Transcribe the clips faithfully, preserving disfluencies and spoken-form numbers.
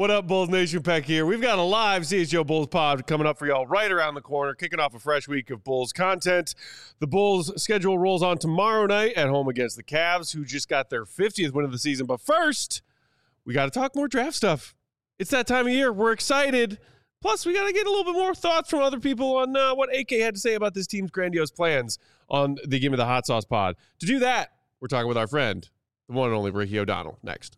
What up, Bulls Nation? Peck here. We've got a live C H G O Bulls pod coming up for y'all right around the corner, kicking off a fresh week of Bulls content. The Bulls schedule rolls on tomorrow night at home against the Cavs, who just got their fiftieth win of the season. But first, we got to talk more draft stuff. It's that time of year. We're excited. Plus, we got to get a little bit more thoughts from other people on uh, what A K had to say about this team's grandiose plans on the Give Me the Hot Sauce pod. To do that, we're talking with our friend, the one and only Ricky O'Donnell, next.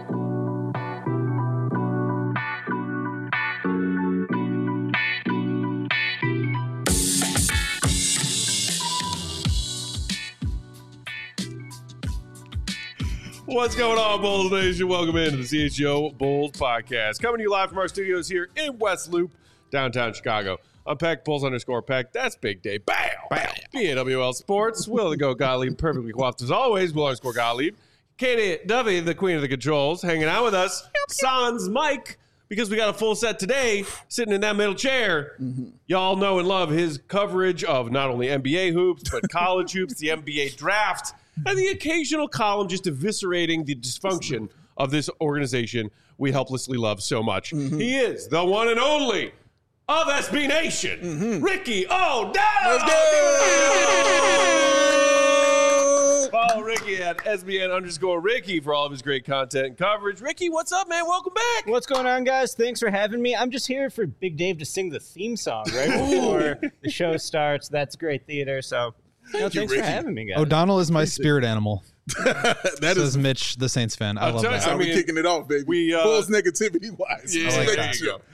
What's going on, Bulls Nation? Welcome into the C H G O Bulls podcast. Coming to you live from our studios here in West Loop, downtown Chicago. I'm Peck, Bulls underscore Peck. That's Big Day. Bam! Bam! B A W L Sports. Will the Go Gottlieb, perfectly coiffed as always. Will underscore Gottlieb. Katie Dovey, the queen of the controls, hanging out with us. Sans Mike, because we got a full set today, sitting in that middle chair. Mm-hmm. Y'all know and love his coverage of not only N B A hoops, but college hoops, the N B A draft, and the occasional column just eviscerating the dysfunction of this organization we helplessly love so much. Mm-hmm. He is the one and only of S B Nation, mm-hmm. Ricky O'Donnell. Let's go! Follow Ricky at S B N underscore Ricky for all of his great content and coverage. Ricky, what's up, man? Welcome back. What's going on, guys? Thanks for having me. I'm just here for Big Dave to sing the theme song right before the show starts. That's great theater, so... Thank no, you, thanks Ricky. for having me, guys. O'Donnell is my spirit animal. that Says is Mitch, the Saints fan. I I'll love tell you, that. how I we mean, kicking it off, baby. we, uh, Bulls negativity wise. Yeah, I like Let that. it show.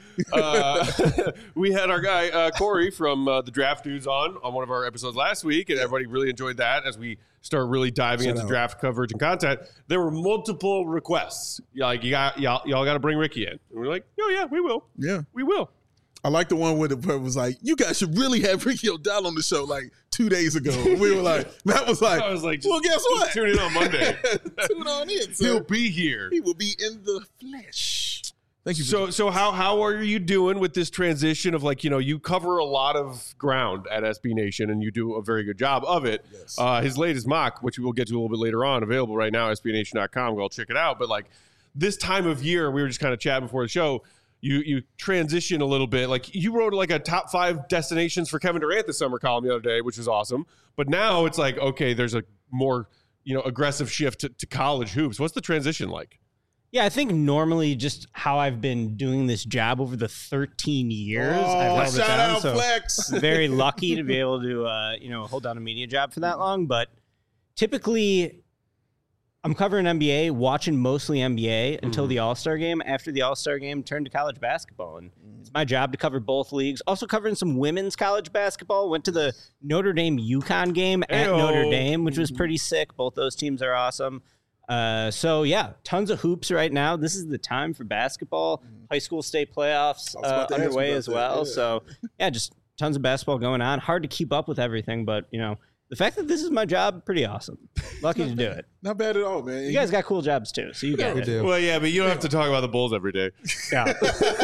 uh, we had our guy uh, Corey from uh, the Draft News on on one of our episodes last week, and everybody really enjoyed that as we start really diving Shout into out. draft coverage and content. There were multiple requests. Yeah, like you got y'all, y'all got to bring Ricky in, and we're like, oh yeah, we will, Yeah. we will. I like the one where the person was like, you guys should really have Ricky O'Donnell on the show like two days ago. We were like, Matt was like, I was like, just, well, guess just what? tune in on Monday. Tune on in, sir. He'll be here. He will be in the flesh. Thank you. So, so how how are you doing with this transition of, like, you know, you cover a lot of ground at S B Nation and you do a very good job of it. Yes. Uh, his latest mock, which we will get to a little bit later on, available right now, S B Nation dot com. Go check it out. But like this time of year, we were just kind of chatting before the show. You you transition a little bit. Like you wrote like a top five destinations for Kevin Durant this summer column the other day, which was awesome. But now it's like, okay, there's a more, you know, aggressive shift to, to college hoops. What's the transition like? Yeah, I think normally just how I've been doing this job over the thirteen years, Oh, I've held it shout down. out So Flex. very lucky to be able to, uh, you know, hold down a media job for that long. But typically, I'm covering N B A, watching mostly N B A until Mhm. the All-Star game. After the All-Star game, turned to college basketball. And it's my job to cover both leagues. Also covering some women's college basketball. Went to the Notre Dame UConn game at Ayo. Notre Dame, which was pretty sick. Both those teams are awesome. Uh, so, yeah, tons of hoops right now. This is the time for basketball. High school state playoffs I was about uh, to ask you underway about as that, well. yeah. So, yeah, just tons of basketball going on. Hard to keep up with everything, but, you know, the fact that this is my job, pretty awesome. Lucky to do it. Not bad at all, man. You guys got cool jobs too, so you get We it. do. Well, yeah, but you don't have to talk about the Bulls every day. Yeah.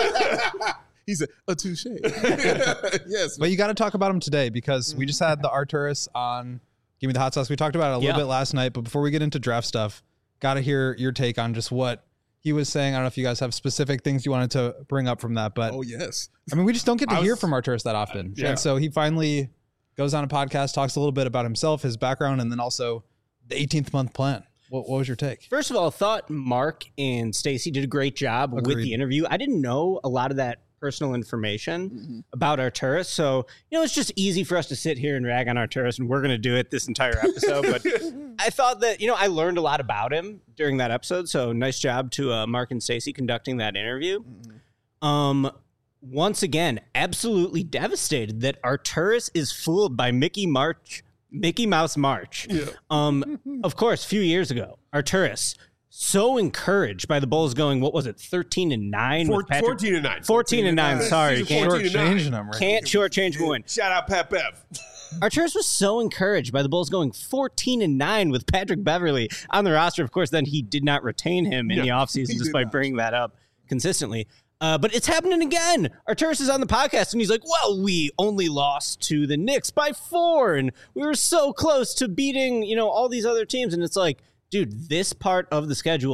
He said, a touche. Yes. But you got to talk about him today because we just had the Arturis on Give Me the Hot Sauce. We talked about it a little Yeah. bit last night, but before we get into draft stuff, got to hear your take on just what he was saying. I don't know if you guys have specific things you wanted to bring up from that, but Oh, yes. I mean, we just don't get to I hear was- from Arturis that often. yeah. And so he finally goes on a podcast, talks a little bit about himself, his background, and then also the eighteenth month plan. What, what was your take? First of all, thought Mark and Stacy did a great job with Agreed. the interview. I didn't know a lot of that personal information Mm-hmm. about Arturis, so you know it's just easy for us to sit here and rag on Arturis, and we're going to do it this entire episode. But I thought that you know I learned a lot about him during that episode. So nice job to uh, Mark and Stacy conducting that interview. Mm-hmm. Um. Once again, absolutely devastated that Arturis is fooled by Mickey March, Mickey Mouse March. Yeah. Um, of course, a few years ago, Arturis so encouraged by the Bulls going, what was it, thirteen and nine? Four, with Patrick? fourteen and nine. fourteen and nine. Sorry, Season can't, fourteen and nine. Changing him, right? can't shortchange him win. Shout out Pat Bev. Arturis was so encouraged by the Bulls going fourteen and nine with Patrick Beverly on the roster. Of course, then he did not retain him in Yeah, the he offseason did despite not. bringing that up consistently. Uh, but it's happening again. Arturis is on the podcast, and he's like, well, we only lost to the Knicks by four, and we were so close to beating, you know, all these other teams. And it's like, dude, this part of the schedule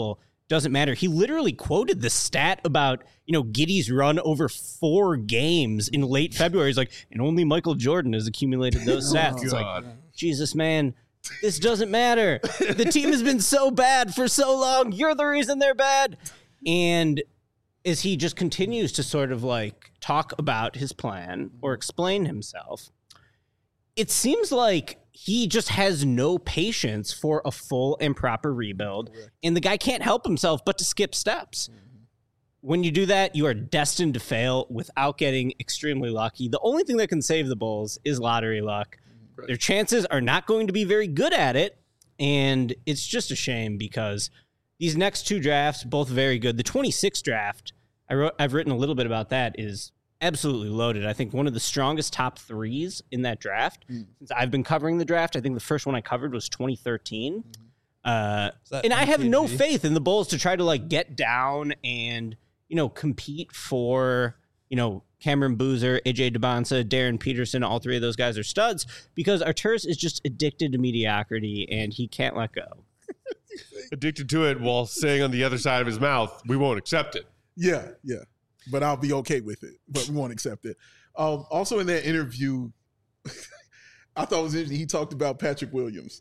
doesn't matter. He literally quoted the stat about, you know, Giddey's run over four games in late February. He's like, and only Michael Jordan has accumulated those stats. It's like, Jesus, man, this doesn't matter. The team has been so bad for so long. You're the reason they're bad. And as he just continues to sort of like talk about his plan or explain himself, it seems like he just has no patience for a full and proper rebuild. Correct. And the guy can't help himself but to skip steps. Mm-hmm. When you do that, you are destined to fail without getting extremely lucky. The only thing that can save the Bulls is lottery luck. Right. Their chances are not going to be very good at it. And it's just a shame because these next two drafts, both very good. The twenty-six draft, I wrote, I've written a little bit about that, is absolutely loaded. I think one of the strongest top threes in that draft. Mm. Since I've been covering the draft, I think the first one I covered was twenty thirteen. Mm. Uh, and I have no faith in the Bulls to try to like get down and, you know, compete for, you know, Cameron Boozer, A J DeBonsa, Darren Peterson. All three of those guys are studs because Arturas is just addicted to mediocrity and he can't let go. Addicted to it while saying on the other side of his mouth, we won't accept it. Yeah, yeah. But I'll be okay with it. But we won't accept it. Um, also in that interview, I thought it was interesting. He talked about Patrick Williams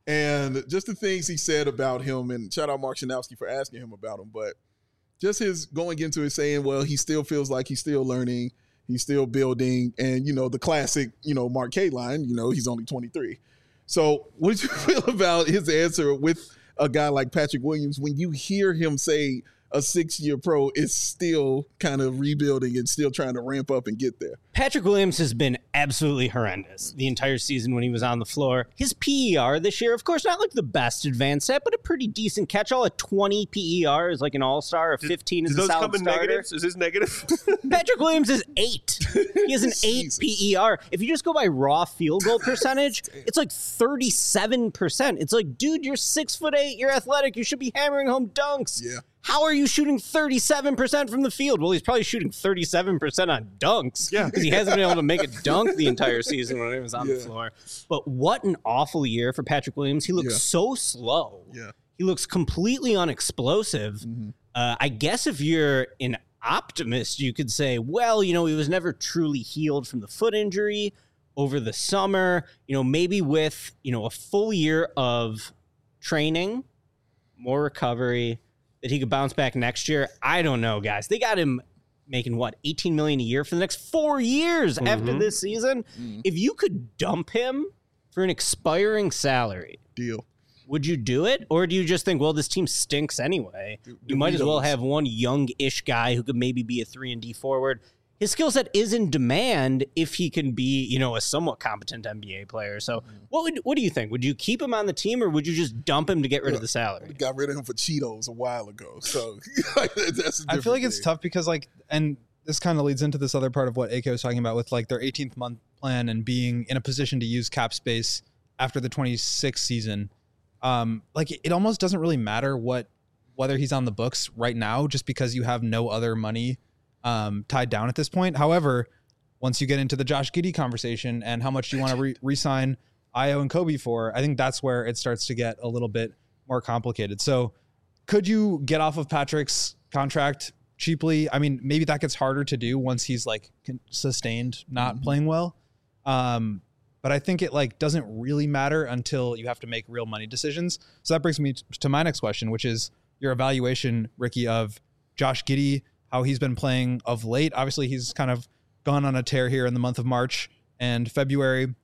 and just the things he said about him. And shout out Mark Shanowski for asking him about him. But just his going into it saying, well, he still feels like he's still learning. He's still building. And, you know, the classic, you know, Mark K line, you know, he's only twenty-three. So what did you feel about his answer with a guy like Patrick Williams when you hear him say a six-year pro is still kind of rebuilding and still trying to ramp up and get there? Patrick Williams has been absolutely horrendous the entire season when he was on the floor. His P E R this year, of course, not like the best advanced set, but a pretty decent catch-all. A twenty P E R is like an all-star. A fifteen did, is did a solid those come in starter. Negatives? Is this negative? Patrick Williams is eight. He has an eight P E R. If you just go by raw field goal percentage, it's like thirty-seven percent. It's like, dude, you're six foot eight. You're athletic. You should be hammering home dunks. Yeah. How are you shooting thirty-seven percent from the field? Well, he's probably shooting thirty-seven percent on dunks. Yeah. Because he hasn't been able to make a dunk the entire season when he was on yeah. the floor. But what an awful year for Patrick Williams. He looks yeah. so slow. Yeah. He looks completely unexplosive. Mm-hmm. Uh, I guess if you're an optimist, you could say, well, you know, he was never truly healed from the foot injury over the summer. You know, maybe with, you know, a full year of training, more recovery, that he could bounce back next year. I don't know, guys. They got him making what, eighteen million dollars a year for the next four years mm-hmm. after this season. Mm-hmm. If you could dump him for an expiring salary, deal. Would you do it? Or do you just think, well, this team stinks anyway? Do, do you might as well have one young-ish guy who could maybe be a three and D forward. His skill set is in demand if he can be, you know, a somewhat competent N B A player. So mm-hmm. what would what do you think? Would you keep him on the team or would you just dump him to get rid yeah, of the salary? We got rid of him for Cheetos a while ago. So like, that's a I feel like thing. It's tough because like, and this kind of leads into this other part of what A K was talking about with like their eighteenth month plan and being in a position to use cap space after the twenty-sixth season. Um, like it almost doesn't really matter what, whether he's on the books right now, just because you have no other money um, tied down at this point. However, once you get into the Josh Giddey conversation and how much you want to re- re-sign Ayo and Kobe for, I think that's where it starts to get a little bit more complicated. So could you get off of Patrick's contract cheaply? I mean, maybe that gets harder to do once he's like sustained not mm-hmm. playing well. Um, But I think it like doesn't really matter until you have to make real money decisions. So that brings me to my next question, which is your evaluation, Ricky, of Josh Giddey, how he's been playing of late. Obviously, he's kind of gone on a tear here in the month of March and February.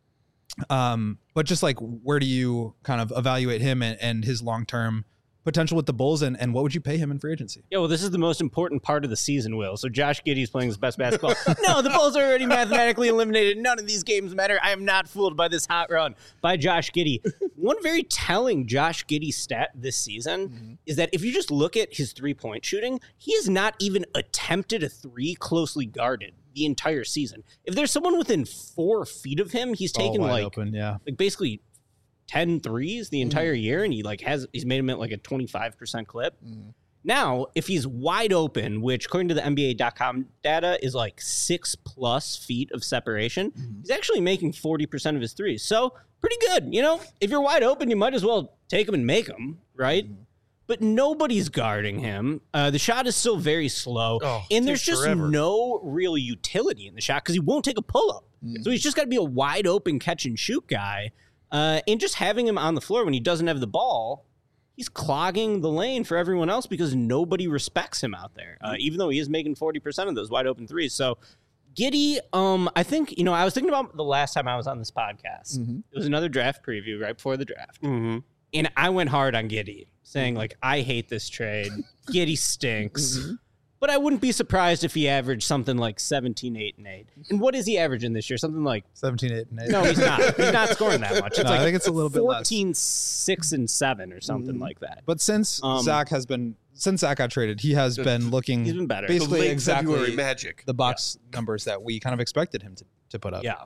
Um, but just like, where do you kind of evaluate him and, and his long-term potential with the Bulls, and, and what would you pay him in free agency? Yeah, well, this is the most important part of the season, Will. So Josh Giddey's playing his best basketball. No, the Bulls are already mathematically eliminated. None of these games matter. I am not fooled by this hot run by Josh Giddey. One very telling Josh Giddey stat this season mm-hmm. is that if you just look at his three-point shooting, he has not even attempted a three closely guarded the entire season. If there's someone within four feet of him, he's taken like, open, yeah. like basically ten threes the entire mm. year, and he like has he's made him at like a twenty-five percent clip. Mm. Now, if he's wide open, which according to the N B A dot com data is like six plus feet of separation, mm. he's actually making forty percent of his threes. So pretty good. You know, if you're wide open, you might as well take them and make them, right? Mm. but nobody's guarding him. Uh, the shot is still very slow, Oh, and there's just forever. no real utility in the shot because he won't take a pull-up. Mm. So he's just got to be a wide-open catch-and-shoot guy. Uh, and just having him on the floor when he doesn't have the ball, he's clogging the lane for everyone else because nobody respects him out there, uh, even though he is making forty percent of those wide-open threes. So Giddey, um, I think, you know, I was thinking about the last time I was on this podcast. Mm-hmm. It was another draft preview right before the draft. Mm-hmm. And I went hard on Giddey, saying, like, I hate this trade. Giddey stinks. Mm-hmm. But I wouldn't be surprised if he averaged something like seventeen, eight, and eight. And what is he averaging this year? Something like seventeen, eight, and eight. No, he's not. He's not scoring that much. It's no, like I think it's a little bit less. fourteen, six, and seven or something mm-hmm. like that. But since um, Zach has been since Zach got traded, he has been looking he's been better. Basically exactly February magic. The box yeah. numbers that we kind of expected him to, to put up. Yeah.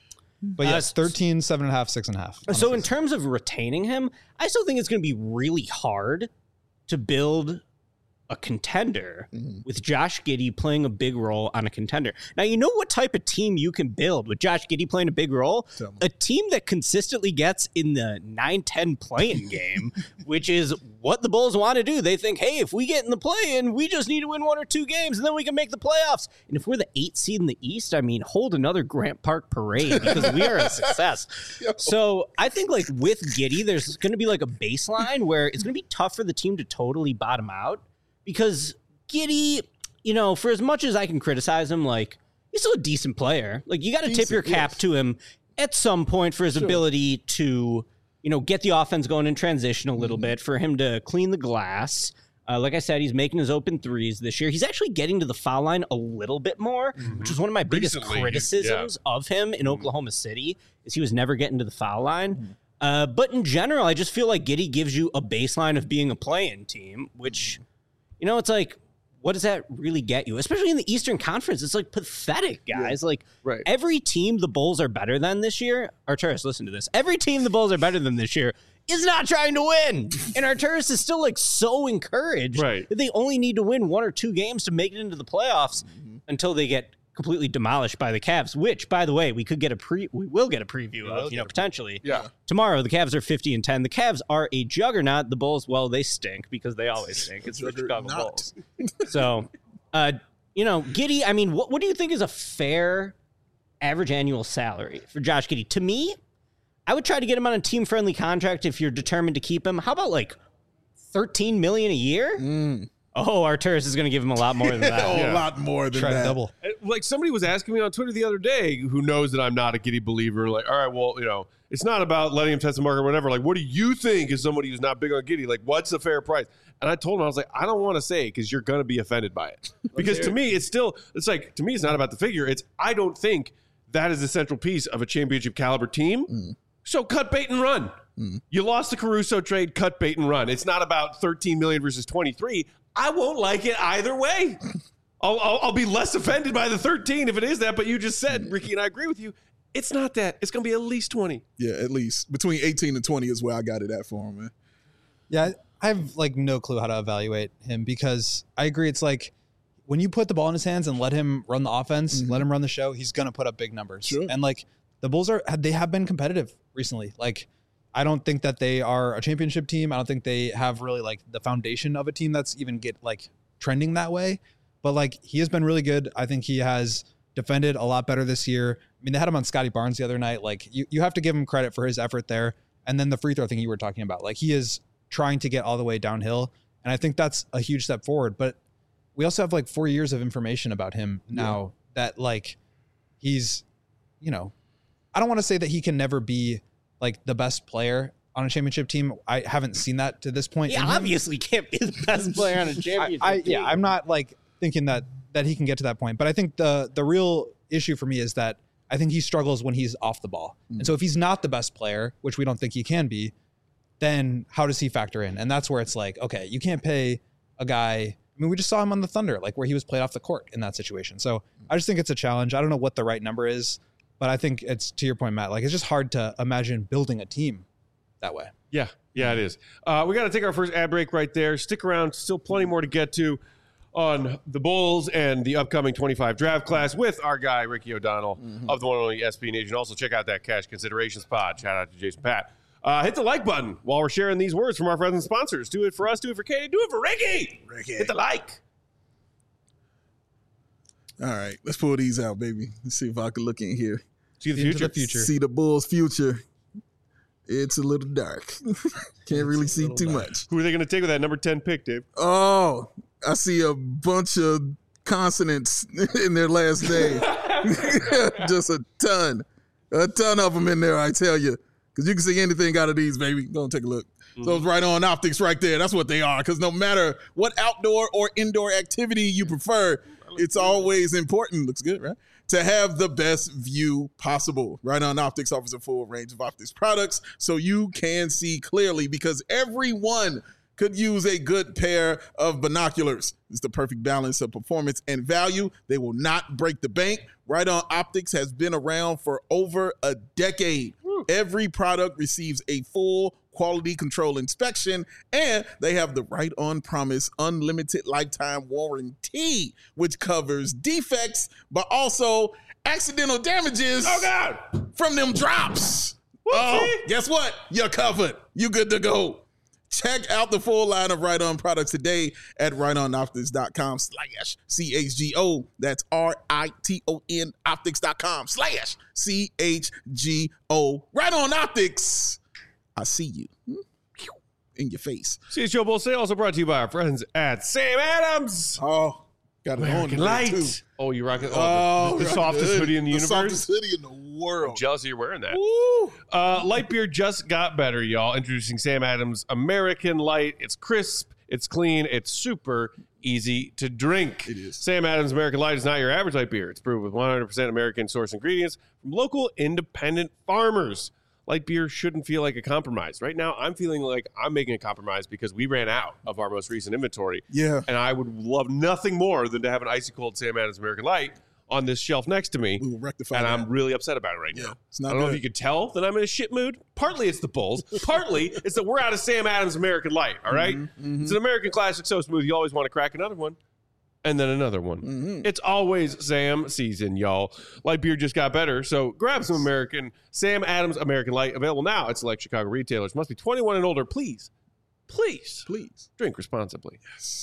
But yes, uh, thirteen, seven and a half, six and a half. So in terms of retaining him, I still think it's going to be really hard to build a contender mm-hmm. with Josh Giddey playing a big role on a contender. Now, you know what type of team you can build with Josh Giddey playing a big role? A team that consistently gets in the nine ten play-in game, which is what the Bulls want to do. They think, hey, if we get in the play-in, we just need to win one or two games, and then we can make the playoffs. And if we're the eighth seed in the East, I mean, hold another Grant Park parade because we are a success. So I think, like, with Giddey, there's going to be, like, a baseline where it's going to be tough for the team to totally bottom out. Because Giddey, you know, for as much as I can criticize him, like, he's still a decent player. Like, you got to tip your cap yes. to him at some point for his sure. ability to, you know, get the offense going in transition a little mm-hmm. bit, for him to clean the glass. Uh, like I said, he's making his open threes this year. He's actually getting to the foul line a little bit more, mm-hmm. which was one of my biggest Recently, criticisms yeah. of him in mm-hmm. Oklahoma City, is he was never getting to the foul line. Mm-hmm. Uh, but in general, I just feel like Giddey gives you a baseline of being a play-in team, which... You know, it's like, what does that really get you? Especially in the Eastern Conference, it's like pathetic, guys. Yeah, like right. every team the Bulls are better than this year, Arturas, listen to this. Every team the Bulls are better than this year is not trying to win. And Arturas is still like so encouraged right. that they only need to win one or two games to make it into the playoffs mm-hmm. until they get completely demolished by the Cavs, which, by the way, we could get a pre we will get a preview of, you know, potentially. Yeah. Tomorrow, the Cavs are fifty and ten. The Cavs are a juggernaut. The Bulls, well, they stink because they always stink. It's the Chicago Bulls. So, uh, you know, Giddey, I mean, what, what do you think is a fair average annual salary for Josh Giddey? To me, I would try to get him on a team-friendly contract if you're determined to keep him. How about like thirteen million dollars a year? Mm. Oh, Arturas is going to give him a lot more than that. oh, yeah. A lot more than Try that. To double. Like somebody was asking me on Twitter the other day, who knows that I'm not a Giddey believer. Like, all right, well, you know, it's not about letting him test the market or whatever. Like, what do you think as somebody who's not big on Giddey? Like, what's the fair price? And I told him, I was like, I don't want to say because you're going to be offended by it. Because to me, it's still, it's like, to me, it's not about the figure. It's, I don't think that is the central piece of a championship caliber team. Mm. So cut bait and run. Mm. You lost the Caruso trade, cut bait and run. It's not about thirteen million versus twenty-three. I won't like it either way. I'll, I'll, I'll be less offended by the thirteen if it is that, but you just said, Ricky, and I agree with you, it's not that. It's going to be at least twenty. Yeah, at least. Between eighteen and twenty is where I got it at for him, man. Yeah, I have, like, no clue how to evaluate him because I agree. It's like when you put the ball in his hands and let him run the offense, mm-hmm. let him run the show, he's going to put up big numbers. Sure. And, like, the Bulls are, they have been competitive recently. Like, I don't think that they are a championship team. I don't think they have really like the foundation of a team that's even get like trending that way. But like he has been really good. I think he has defended a lot better this year. I mean, they had him on Scotty Barnes the other night. Like you, you have to give him credit for his effort there. And then the free throw thing you were talking about, like he is trying to get all the way downhill. And I think that's a huge step forward. But we also have like four years of information about him now yeah. that like he's, you know, I don't want to say that he can never be like the best player on a championship team. I haven't seen that to this point. He obviously can't be the best player on a championship I, I, team. Yeah, I'm not like thinking that that he can get to that point. But I think the the real issue for me is that I think he struggles when he's off the ball. Mm. And so if he's not the best player, which we don't think he can be, then how does he factor in? And that's where it's like, okay, you can't pay a guy. I mean, we just saw him on the Thunder, like where he was played off the court in that situation. So I just think it's a challenge. I don't know what the right number is. But I think it's, to your point, Matt, like it's just hard to imagine building a team that way. Yeah, yeah, it is. Uh, we got to take our first ad break right there. Stick around. Still plenty more to get to on the Bulls and the upcoming twenty-five draft class with our guy, Ricky O'Donnell mm-hmm. of the one and only S B Nation. Also, check out that Cash Considerations pod. Shout out to Jason Pat. Uh, hit the like button while we're sharing these words from our friends and sponsors. Do it for us. Do it for Katie. Do it for Ricky. Ricky. Hit the like. All right, let's pull these out, baby. Let's see if I can look in here. See the Into future. the future. See the Bulls' future. It's a little dark. Can't really see too dark. much. Who are they going to take with that number ten pick, Dave? Oh, I see a bunch of consonants in their last name. Just a ton. A ton of them in there, I tell you. Because you can see anything out of these, baby. Go and take a look. Mm-hmm. So it's right on optics right there. That's what they are. Because no matter what outdoor or indoor activity you prefer, it's always important. Looks good, right? To have the best view possible. Right On Optics offers a full range of optics products so you can see clearly, because everyone could use a good pair of binoculars. It's the perfect balance of performance and value. They will not break the bank. Right On Optics has been around for over a decade. Woo. Every product receives a full quality control inspection, and they have the Right On Promise unlimited lifetime warranty, which covers defects, but also accidental damages Oh, God. from them drops. Oh, guess what? You're covered. You good to go. Check out the full line of Right On products today at right on optics dot com slash C H G O. That's R I T O N optics dot com slash C H G O. Right On Optics. I see you in your face. C H G O Bull Sale also brought to you by our friends at Sam Adams. Oh, got it on American today, Light. too. Oh, you rocking? Oh, Oh, the, the right softest there. hoodie in the, the universe. softest hoodie in the world. I'm jealous you're wearing that. Woo. Uh, light beer just got better, y'all. Introducing Sam Adams American Light. It's crisp, it's clean, it's super easy to drink. It is. Sam Adams American Light is not your average light beer. It's brewed with one hundred percent American source ingredients from local independent farmers. Light beer shouldn't feel like a compromise. Right now, I'm feeling like I'm making a compromise because we ran out of our most recent inventory. Yeah. And I would love nothing more than to have an icy cold Sam Adams American Light on this shelf next to me. We will rectify And that. I'm really upset about it right Yeah, now. it's not I don't know good. if you could tell that I'm in a shit mood. Partly it's the Bulls. Partly it's that we're out of Sam Adams American Light, all right? Mm-hmm, It's an American classic so smooth you always want to crack another one. And then another one. Mm-hmm. It's always Sam season, y'all. Light beer just got better, so grab some American Sam Adams American Light. Available now at select Chicago retailers. Must be twenty-one and older. Please, please, Please. drink responsibly.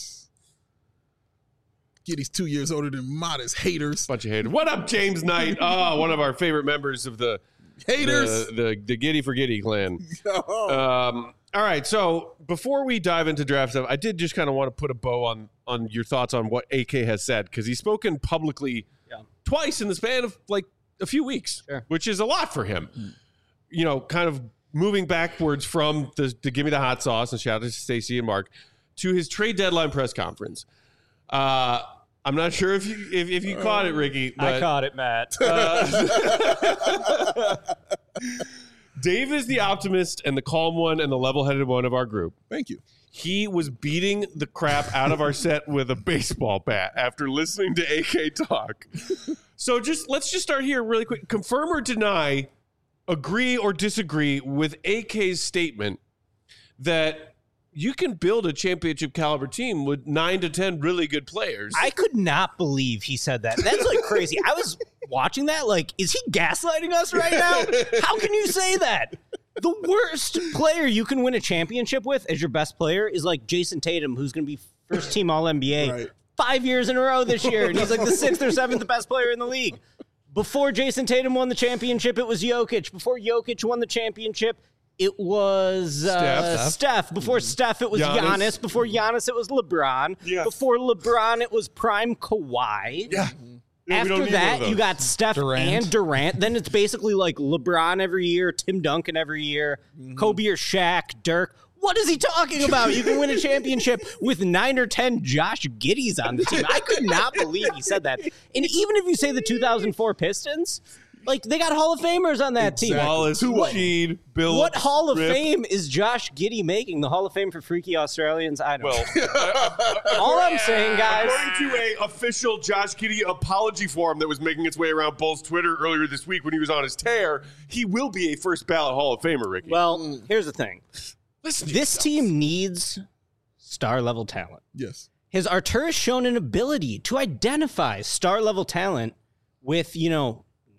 Giddy's two years older than modest haters. Bunch of haters. What up, James Knight? Oh, one of our favorite members of the Haters. the, the, the Giddy for Giddy clan. Oh. Um, all right, so before we dive into draft stuff, I did just kind of want to put a bow on on your thoughts on what A K has said, because he's spoken publicly Yeah. twice in the span of like a few weeks, Sure. which is a lot for him. You know, kind of moving backwards from the, the Give Me the Hot Sauce, and shout out to Stacey and Mark, to his trade deadline press conference. Uh, I'm not sure if you if, if you caught it, Ricky. But, I caught it, Matt. uh, Dave is the optimist and the calm one and the level-headed one of our group. Thank you. He was beating the crap out of our set with a baseball bat after listening to A K talk. So just let's just start here really quick. Confirm or deny, agree or disagree with A K's statement that you can build a championship caliber team with nine to ten really good players. I could not believe he said that. That's like crazy. I was watching that like, is he gaslighting us right now? How can you say that? The worst player you can win a championship with as your best player is like Jason Tatum, who's going to be first team All N B A Right. five years in a row this year. And he's like the sixth or seventh best player in the league. Before Jason Tatum won the championship, it was Jokic. Before Jokic won the championship, it was uh, Steph. Steph. Before Steph, it was Giannis. Giannis. Before Giannis, it was LeBron. Yeah. Before LeBron, it was prime Kawhi. yeah. Yeah, we don't After need one of that, those. you got Steph Durant. and Durant. Then it's basically like LeBron every year, Tim Duncan every year, Kobe or Shaq, Dirk. What is he talking about? You can win a championship with nine or ten Josh Giddies on the team. I could not believe he said that. And even if you say the two thousand four Pistons, like they got Hall of Famers on that team. Wallace, Sheed, Bill. What Hall of Rip. Fame is Josh Giddy making? The Hall of Fame for freaky Australians? I don't Well, know. All I'm saying, guys. according to a official Josh Giddey apology form that was making its way around Bull's Twitter earlier this week when he was on his tear, he will be a first ballot Hall of Famer, Ricky. Well, here's the thing. listen to This yourself. team needs star-level talent. Yes. Has Arturas shown an ability to identify star-level talent with, you know,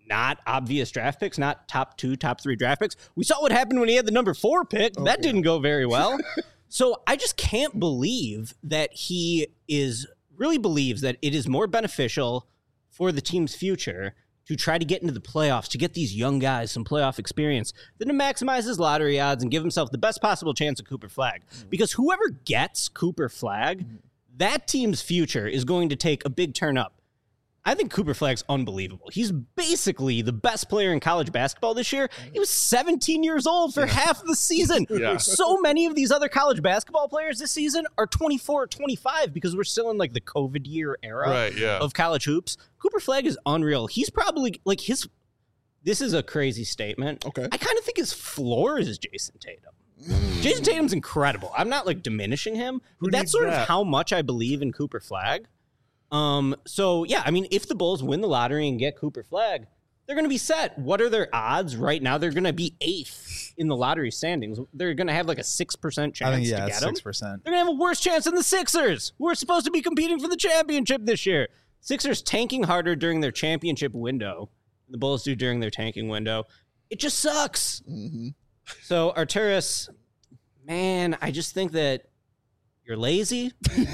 not obvious draft picks, not top two, top three draft picks. We saw what happened when he had the number four pick. Okay. That didn't go very well. So I just can't believe that he is really believes that it is more beneficial for the team's future to try to get into the playoffs, to get these young guys some playoff experience, than to maximize his lottery odds and give himself the best possible chance at Cooper Flagg. Mm-hmm. Because whoever gets Cooper Flagg, mm-hmm. that team's future is going to take a big turn up. I think Cooper Flagg's unbelievable. He's basically the best player in college basketball this year. He was seventeen years old for yeah. half the season. Yeah. So many of these other college basketball players this season are twenty-four or twenty-five because we're still in like the COVID year era right, yeah. of college hoops. Cooper Flagg is unreal. He's probably like his, this is a crazy statement. Okay. I kind of think his floor is Jason Tatum. Mm. Jason Tatum's incredible. I'm not like diminishing him. But that's sort that? of how much I believe in Cooper Flagg. Um, so yeah, I mean, if the Bulls win the lottery and get Cooper Flagg, they're going to be set. What are their odds right now? They're going to be eighth in the lottery standings. They're going to have like a six percent chance I think, yeah, to get six percent. Them. They're going to have a worse chance than the Sixers, who are supposed to be competing for the championship this year. Sixers tanking harder during their championship window. The Bulls do during their tanking window. It just sucks. Mm-hmm. So Arturas, man, I just think that you're lazy.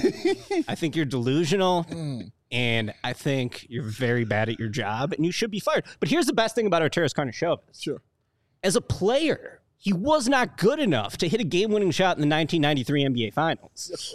I think you're delusional. Mm. And I think you're very bad at your job and you should be fired. But here's the best thing about Arturas Karnisovas. Sure. As a player, he was not good enough to hit a game-winning shot in the nineteen ninety-three N B A Finals.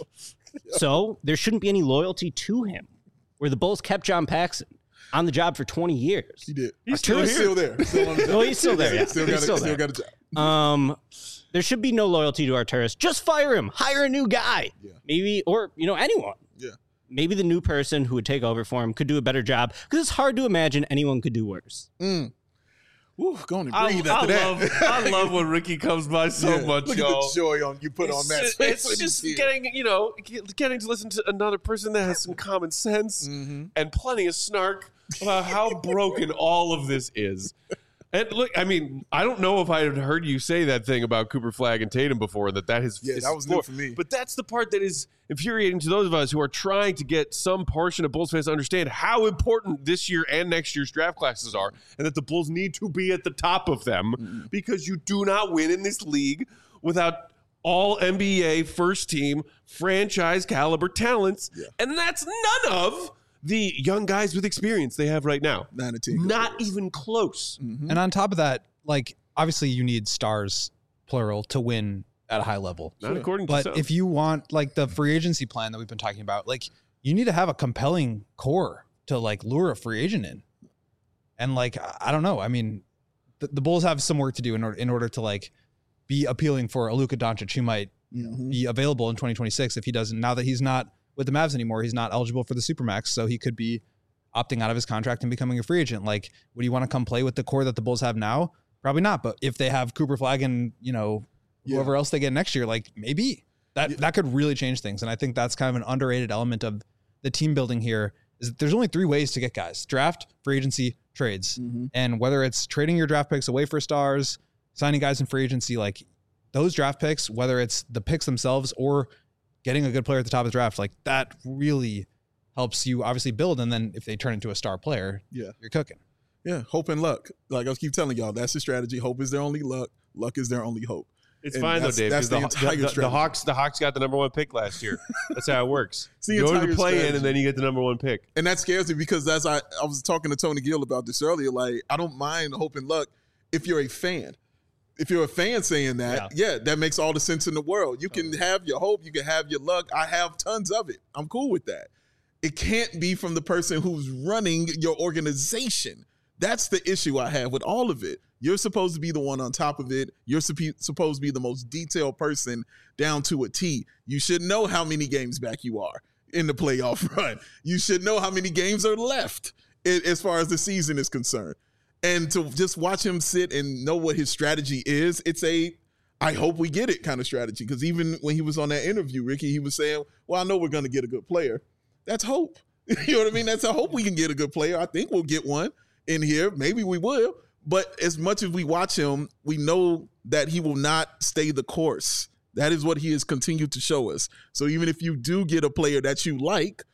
So there shouldn't be any loyalty to him, where the Bulls kept John Paxson on the job for twenty years. He did. He's still, he's still there. Still on the job. Well, he's still there, yeah. Still, he's got, still, a, still there. got a job. Um, there should be no loyalty to Arturas. Just fire him. Hire a new guy. Yeah. Maybe, or, you know, anyone. Yeah. Maybe the new person who would take over for him could do a better job, because it's hard to imagine anyone could do worse. Mm. Ooh, go on and I, breathe I after love, that. I love when Ricky comes by so Yeah. much, Look y'all. at the joy on you put it's on Matt's just, face. it's when just he's getting, you know, getting to listen to another person that has some common sense mm-hmm. and plenty of snark about how broken all of this is. And look, I mean, I don't know if I had heard you say that thing about Cooper Flagg and Tatum before, that that is Yeah, that was new for me. But that's the part that is infuriating to those of us who are trying to get some portion of Bulls fans to understand how important this year and next year's draft classes are, and that the Bulls need to be at the top of them, mm-hmm. because you do not win in this league without all N B A first team franchise caliber talents, yeah. and that's none of the young guys with experience they have right now. Nine to ten. Not even close. Mm-hmm. And on top of that, like, obviously you need stars, plural, to win at a high level. Not sure. according to But some. if you want, like, the free agency plan that we've been talking about, like, you need to have a compelling core to, like, lure a free agent in. And, like, I don't know. I mean, the, the Bulls have some work to do in order, in order to, like, be appealing for a Luka Doncic who might mm-hmm. be available in twenty twenty-six if he doesn't. Now that he's not with the Mavs anymore, he's not eligible for the Supermax, so he could be opting out of his contract and becoming a free agent. Like, would you want to come play with the core that the Bulls have now? Probably not. But if they have Cooper Flagg and, you know, whoever yeah. else they get next year, like, maybe that yeah. that could really change things. And I think that's kind of an underrated element of the team building here, is that there's only three ways to get guys: draft, free agency, trades. Mm-hmm. And whether it's trading your draft picks away for stars, signing guys in free agency, like those draft picks, whether it's the picks themselves or getting a good player at the top of the draft, like that really helps you obviously build. And then if they turn into a star player, yeah, you're cooking. Yeah, hope and luck. Like I keep telling y'all, that's the strategy. Hope is their only luck. Luck is their only hope. It's And fine though, that's- Dave. that's 'cause the the, entire the, the, strategy. Hawks, the Hawks got the number one pick last year. That's how it works. It's the You go to entire the play in, strategy. and then you get the number one pick. And that scares me because that's I, I was talking to Tony Gill about this earlier. Like, I don't mind hope and luck if you're a fan. If you're a fan saying that, yeah. yeah, that makes all the sense in the world. You can have your hope, you can have your luck. I have tons of it. I'm cool with that. It can't be from the person who's running your organization. That's the issue I have with all of it. You're supposed to be the one on top of it. You're supp- supposed to be the most detailed person down to a T. You should know how many games back you are in the playoff run. You should know how many games are left as far as the season is concerned. And to just watch him sit and know what his strategy is, it's a, I hope we get it kind of strategy. Because even when he was on that interview, Ricky, he was saying, well, I know we're going to get a good player. That's hope. You know what I mean? That's a hope we can get a good player. I think we'll get one in here. Maybe we will. But as much as we watch him, we know that he will not stay the course. That is what he has continued to show us. So even if you do get a player that you like,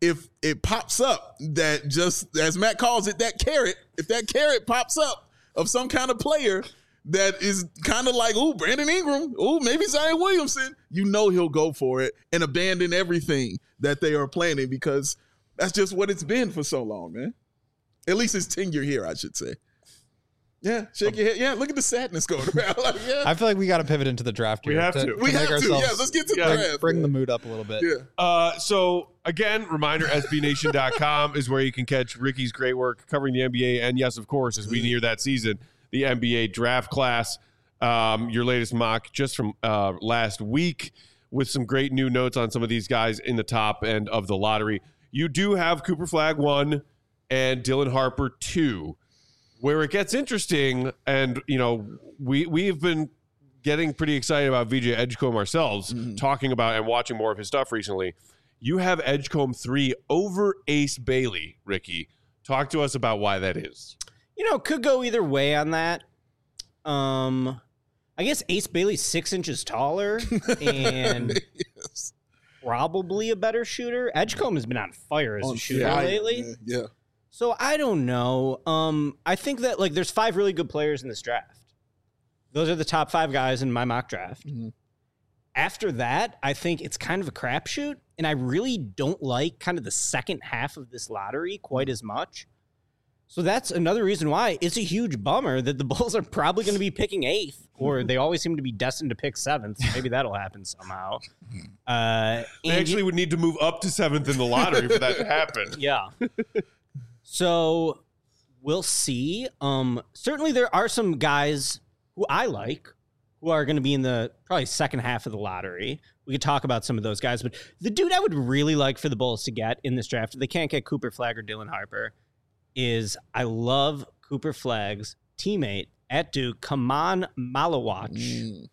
if it pops up that just, as Matt calls it, that carrot, if that carrot pops up of some kind of player that is kind of like, ooh, Brandon Ingram, ooh, maybe Zion Williamson, you know he'll go for it and abandon everything that they are planning because that's just what it's been for so long, man. At least his tenure here, I should say. Yeah, shake your head. Yeah, look at the sadness going around. Like, yeah. I feel like we got to pivot into the draft. We here have to. to We make have to. ourselves- Yeah, let's get to the Yeah. draft. Bring man. the mood up a little bit. Yeah. Uh, so again, reminder: S B Nation dot com is where you can catch Ricky's great work covering the N B A, and yes, of course, as we near that season, the N B A draft class. Um, your latest mock just from uh, last week with some great new notes on some of these guys in the top end of the lottery. You do have Cooper Flagg one and Dylan Harper two. Where it gets interesting, and you know, we we've been getting pretty excited about V J Edgecombe ourselves, mm-hmm. talking about and watching more of his stuff recently. You have Edgecombe three over Ace Bailey, Ricky. Talk to us about why that is. You know, could go either way on that. Um, I guess Ace Bailey's six inches taller and yes. probably a better shooter. Edgecombe has been on fire as On a shooter fire, lately. Yeah. yeah. So I don't know. Um, I think that like there's five really good players in this draft. Those are the top five guys in my mock draft. Mm-hmm. After that, I think it's kind of a crapshoot, and I really don't like kind of the second half of this lottery quite as much. So that's another reason why it's a huge bummer that the Bulls are probably going to be picking eighth, or they always seem to be destined to pick seventh. Maybe that'll happen somehow. Uh, They actually you, would need to move up to seventh in the lottery for that to happen. Yeah. So we'll see. Um, certainly there are some guys who I like who are going to be in the probably second half of the lottery. We could talk about some of those guys, but the dude I would really like for the Bulls to get in this draft, if they can't get Cooper Flagg or Dylan Harper, is I love Cooper Flagg's teammate at Duke, Kaman Malawach. Mm.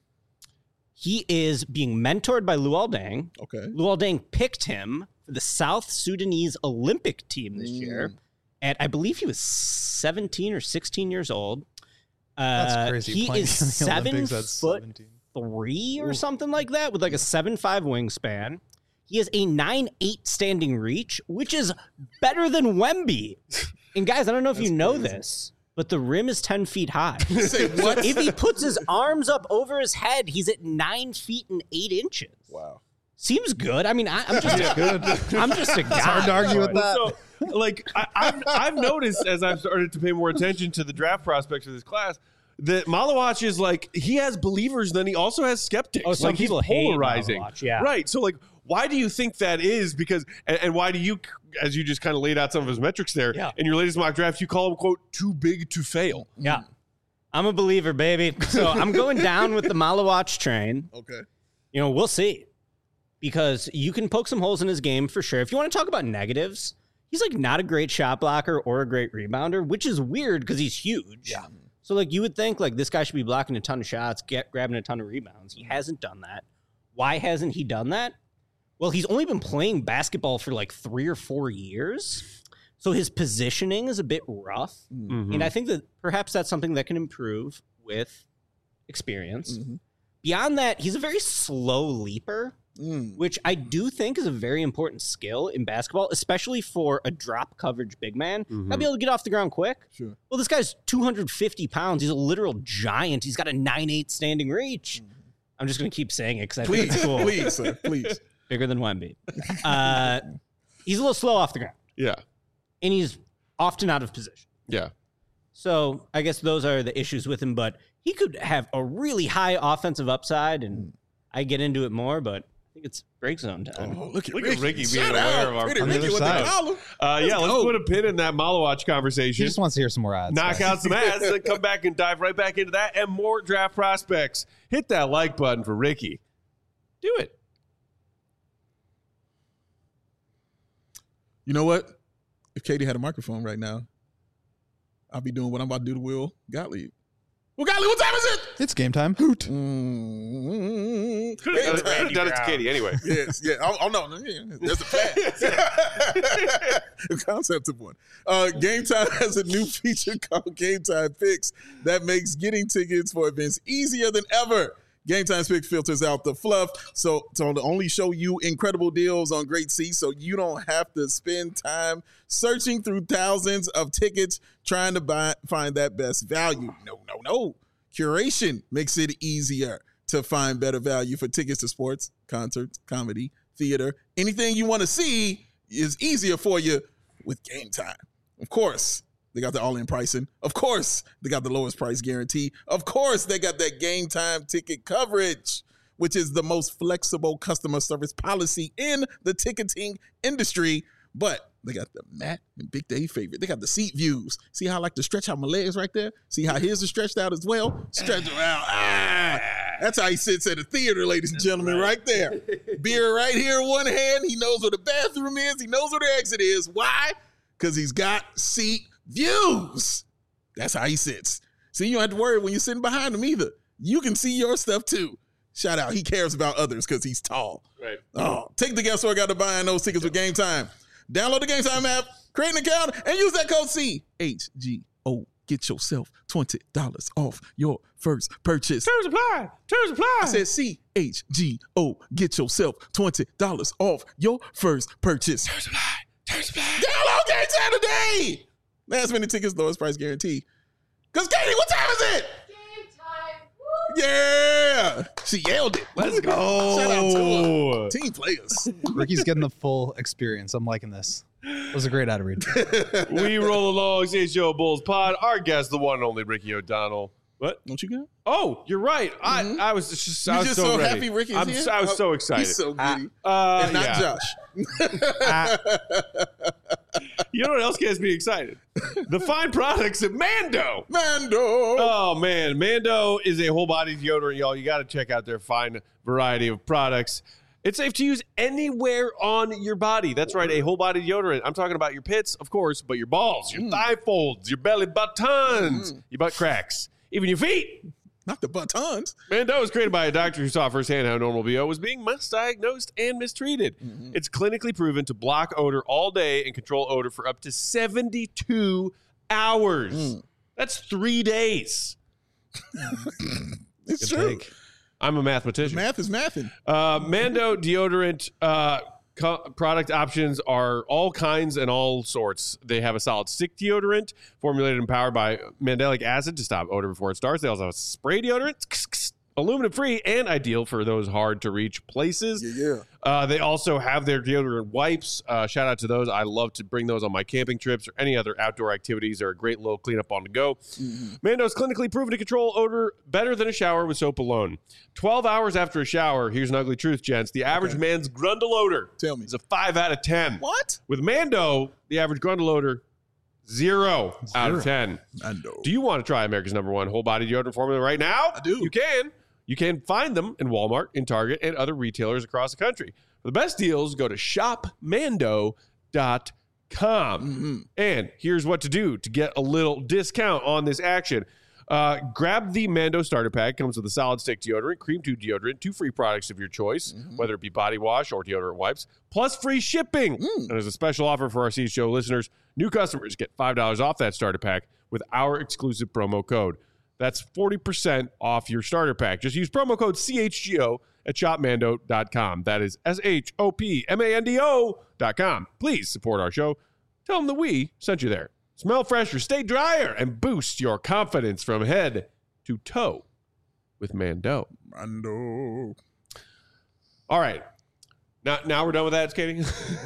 He is being mentored by Luol Deng. Okay. Luol Deng picked him for the South Sudanese Olympic team this Mm. year. And I believe he was seventeen or sixteen years old. Uh, That's crazy. He playing is in the seven Olympics at foot seventeen. three or something like that with like a seven five wingspan. He has a nine eight standing reach, which is better than Wemby. And guys, I don't know if you know this, but the rim is ten feet high. Say So what? if he puts his arms up over his head, he's at nine feet and eight inches. Wow. Seems good. I mean, I, I'm just a good. I'm just a guy. It's hard to argue with that. So, like, I, I've, I've noticed as I've started to pay more attention to the draft prospects of this class that Malawach is like, he has believers, then he also has skeptics. Oh, some like, he's people hate polarizing. Malawach, yeah. Right. So, like, why do you think that is? Because, and, and why do you, as you just kind of laid out some of his metrics there, Yeah. in your latest mock draft, you call him, quote, too big to fail. Yeah. I'm a believer, baby. So I'm going down with the Malawach train. Okay. You know, we'll see. Because you can poke some holes in his game for sure. If you want to talk about negatives, he's like not a great shot blocker or a great rebounder, which is weird because he's huge. Yeah. So like you would think like this guy should be blocking a ton of shots, get grabbing a ton of rebounds. He hasn't done that. Why hasn't he done that? Well, he's only been playing basketball for like three or four years. So his positioning is a bit rough. Mhm. And I think that perhaps that's something that can improve with experience. Mm-hmm. Beyond that, he's a very slow leaper, Mm. which I do think is a very important skill in basketball, especially for a drop coverage big man. Mhm. Gotta be able to get off the ground quick. Sure. Well, this guy's two hundred fifty pounds. He's a literal giant. He's got a nine eight standing reach. I'm just going to keep saying it because I think Please, it's cool. please, sir, please. Bigger than Wemby. Uh, he's a little slow off the ground, Yeah. and he's often out of position. Yeah. So I guess those are the issues with him, but he could have a really high offensive upside, and I get into it more, but I think it's break zone time. Oh, look at Look Ricky, at Ricky being Shout aware out. of our- Pretty On the Ricky other with side. the collar. Uh, yeah, let's go. put a pin in that Malawach He conversation. just wants to hear some more ads. Knock out some ads and come back and dive right back into that and more draft prospects. Hit that like button for Ricky. Do it. You know what? If Katie had a microphone right now, I'll be doing what I'm about to do to Will Gottlieb. Will Gottlieb, what time is it? It's game time. Hoot. Mm-hmm. Could have done, it- done it to Katie anyway. Yes, yeah. Oh, oh no, no, yeah, there's a plan. The concept of one. Uh, Game Time has a new feature called Game Time Picks that makes getting tickets for events easier than ever. Game Time Picks filters out the fluff, so to only show you incredible deals on great seats, so you don't have to spend time searching through thousands of tickets trying to buy, find that best value. No, no, no. Curation makes it easier to find better value for tickets to sports, concerts, comedy, theater. Anything you want to see is easier for you with Game Time. Of course, they got the all-in pricing. Of course, they got the lowest price guarantee. Of course, they got that Game Time ticket coverage, which is the most flexible customer service policy in the ticketing industry. But they got the Matt and Big Dave favorite. They got the seat views. See how I like to stretch out my legs right there? See how his is stretched out as well? Stretch them out. Ah, that's how he sits at a theater, ladies and gentlemen, right there. Beer right here in one hand. He knows where the bathroom is. He knows where the exit is. Why? Because he's got seat views. That's how he sits. See, you don't have to worry when you're sitting behind him either. You can see your stuff too. Shout out. He cares about others because he's tall. Right. Oh, take the guesswork out of buying those tickets with Game Time. Download the Game Time app, create an account, and use that code C H G O. Get yourself twenty dollars off your first purchase. Terms apply. Terms apply. I said C H G O. Get yourself twenty dollars off your first purchase. Terms apply. Terms apply. Download Game Time today. Last minute tickets, lowest price guarantee. Because Katie, what time is it? Game time. Woo! Yeah. She yelled it. Let's go. Shout out to her. Team players. Ricky's getting the full experience. I'm liking this. It was a great ad read. We roll along, C H G O Bulls Pod. Our guest, the one and only Ricky O'Donnell. What? Don't you go? Oh, you're right. Mhm. I I was just You I was just so, so ready. happy Ricky's I'm, here? I was so Oh, excited. He's so giddy. uh, and not yeah. Josh. You know what else gets me excited? The fine products at Mando. Mando. Oh man, Mando is a whole body deodorant, y'all. You got to check out their fine variety of products. It's safe to use anywhere on your body. That's right, a whole body deodorant. I'm talking about your pits, of course, but your balls, your Mm. thigh folds, your belly buttons, Mm. your butt cracks, even your feet. Not the buttons. Mando was created by a doctor who saw firsthand how normal B O was being misdiagnosed and mistreated. Mhm. It's clinically proven to block odor all day and control odor for up to seventy-two hours. Mm. That's three days. It's Good true. take. I'm a mathematician. Math is mathing. Uh, Mando deodorant uh, co- product options are all kinds and all sorts. They have a solid stick deodorant formulated and powered by mandelic acid to stop odor before it starts. They also have a spray deodorant, aluminum free, and ideal for those hard to reach places. Yeah, yeah. Uh, they also have their deodorant wipes. Uh, shout out to those. I love to bring those on my camping trips or any other outdoor activities. They're a great little cleanup on the go. Mm-hmm. Mando's clinically proven to control odor better than a shower with soap alone. twelve hours after a shower, here's an ugly truth, gents. The average Okay. man's grundle odor Tell me. is a five out of ten. What? With Mando, the average grundle odor, zero, out of ten. Mando. Do you want to try America's number one whole body deodorant formula right now? I do. You can. You can find them in Walmart, in Target, and other retailers across the country. For the best deals, go to shop mando dot com. Mm-hmm. And here's what to do to get a little discount on this action. Uh, grab the Mando starter pack. Comes with a solid stick deodorant, cream tube deodorant, two free products of your choice, Mm-hmm. whether it be body wash or deodorant wipes, plus free shipping. Mm. And as a special offer for our C H Show listeners, new customers get five dollars off that starter pack with our exclusive promo code. That's forty percent off your starter pack. Just use promo code C H G O at shop mando dot com. That is S H O P M A N D O dot com. Please support our show. Tell them that we sent you there. Smell fresher, stay drier, and boost your confidence from head to toe with Mando. Mando. All right. Now, now we're done with that, Katie?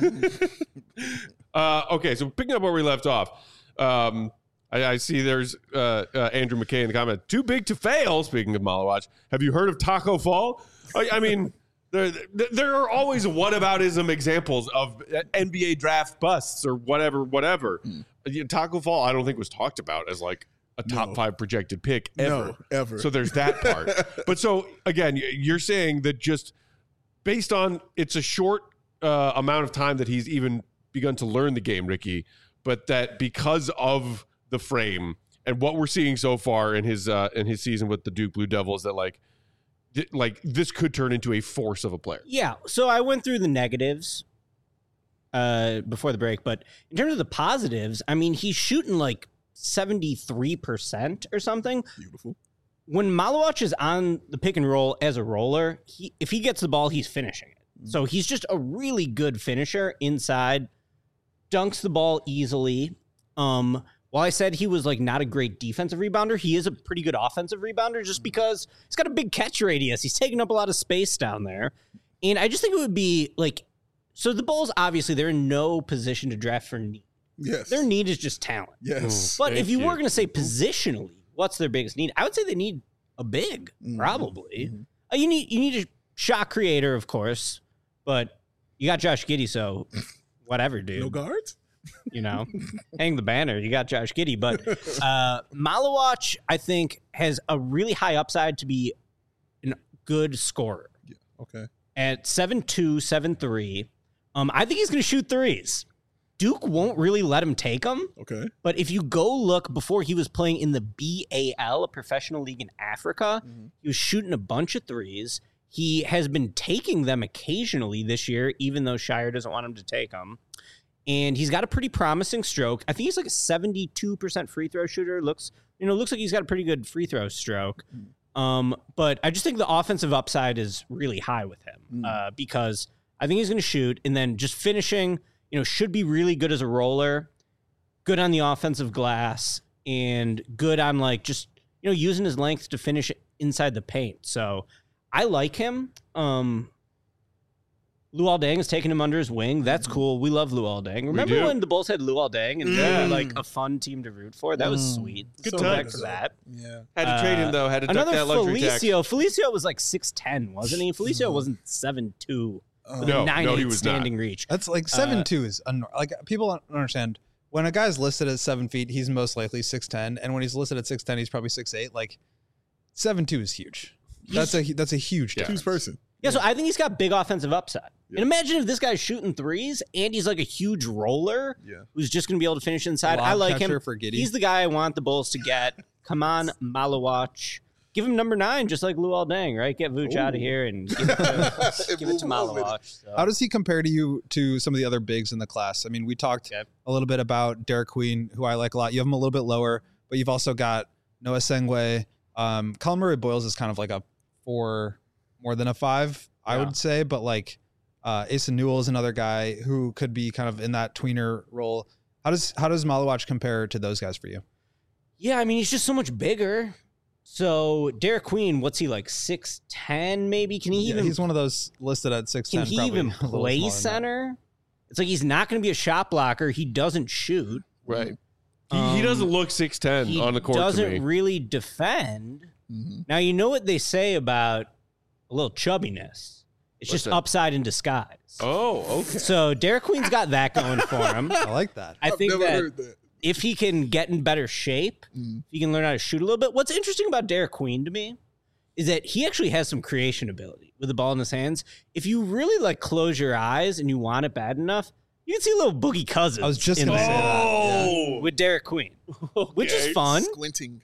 uh, okay, so picking up where we left off. Um, I, I see there's uh, uh, Andrew McKay in the comment. Too big to fail, speaking of Malawatch. Have you heard of Taco Fall? I, I mean, there, there are always whataboutism examples of N B A draft busts or whatever, whatever. Mm. You know, Taco Fall, I don't think was talked about as like a top No. five projected pick ever. No, ever. So there's that part. But so, again, you're saying that just based on it's a short uh, amount of time that he's even begun to learn the game, Ricky, but that because of the frame and what we're seeing so far in his uh, in his season with the Duke Blue Devils, that like th- like this could turn into a force of a player. Yeah. So I went through the negatives uh, before the break, but in terms of the positives, I mean, he's shooting like seventy-three percent or something. Beautiful. when Malawach is on the pick and roll as a roller, he if he gets the ball, he's finishing it. Mm-hmm. So he's just a really good finisher inside, dunks the ball easily. Um, while I said he was like not a great defensive rebounder, he is a pretty good offensive rebounder just because he's got a big catch radius. He's taking up a lot of space down there. And I just think it would be like, so the Bulls, obviously, they're in no position to draft for need. Yes. Their need is just talent. Yes. But Thank if you, you. were going to say positionally, what's their biggest need? I would say they need a big, Mhm. probably. Mhm. Uh, you need you need a shot creator, of course, but you got Josh Giddey, so whatever, dude. No guards? You know, hang the banner. You got Josh Giddey, but uh, Malawach, I think, has a really high upside to be a good scorer. Yeah. Okay. At seven two, seven three, um, I think he's going to shoot threes. Duke won't really let him take them. Okay. But if you go look before he was playing in the B A L, a professional league in Africa, Mhm. he was shooting a bunch of threes. He has been taking them occasionally this year, even though Shire doesn't want him to take them. And he's got a pretty promising stroke. I think he's like a seventy-two percent free throw shooter. Looks, you know, looks like he's got a pretty good free throw stroke. Um, but I just think the offensive upside is really high with him Mm. uh, because I think he's going to shoot and then just finishing, you know, should be really good as a roller, good on the offensive glass, and good on like just, you know, using his length to finish inside the paint. So I like him. Um, Luol Deng is taking him under his wing. That's cool. We love Luol Deng. Remember do. when the Bulls had Luol Deng and they Yeah. were like a fun team to root for? That was Mm. sweet. Good So times. back for that. Yeah. Had to trade him, Uh, though. Had to duck Another that luxury tax. Felicio. Felicio was like six ten, wasn't he? Felicio Mhm. wasn't seven two. Uh, No, nine no, eight he was not. standing reach. That's like seven two is un- like people don't understand when a guy's listed at seven feet, he's most likely six ten, and when he's listed at six ten, he's probably six eight. Like seven two is huge. That's a that's a huge Yeah. difference. Who's person? Yeah, so I think he's got big offensive upside. Yeah. And imagine if this guy's shooting threes and he's like a huge roller Yeah. who's just going to be able to finish inside. Lob I like him. catcher for Giddey. He's the guy I want the Bulls to get. Come on, Malawach. Give him number nine, just like Luol Deng, right? Get Vooch out of here and give it to, give it to Move on with it. Malawach. So. How does he compare to you to some of the other bigs in the class? I mean, we talked Okay. a little bit about Derek Queen, who I like a lot. You have him a little bit lower, but you've also got Noah Sengwe. Um, Colin Murray Boyles is kind of like a four more than a five, I Yeah. would say. But like uh, Asa Newell is another guy who could be kind of in that tweener role. How does how does Malawach compare to those guys for you? Yeah, I mean, he's just so much bigger. So Derek Queen, what's he like, six ten maybe? Can he Yeah, even he's one of those listed at six ten. Can he even play center? It's like he's not going to be a shot blocker. He doesn't shoot. Right. He, Um, he doesn't look six ten He on the court to doesn't me. really defend. Mhm. Now, you know what they say about a little chubbiness? It's What's just that? upside in disguise. Oh, okay. So Derek Queen's got that going for him. I like that. I I've think never that heard that. if he can get in better shape, Mm. if he can learn how to shoot a little bit. What's interesting about Derek Queen to me is that he actually has some creation ability with the ball in his hands. If you really like close your eyes and you want it bad enough, you can see a little Boogie Cousins. I was just in gonna there say that. Oh, with Derek Queen, which is Okay. fun. Squinting.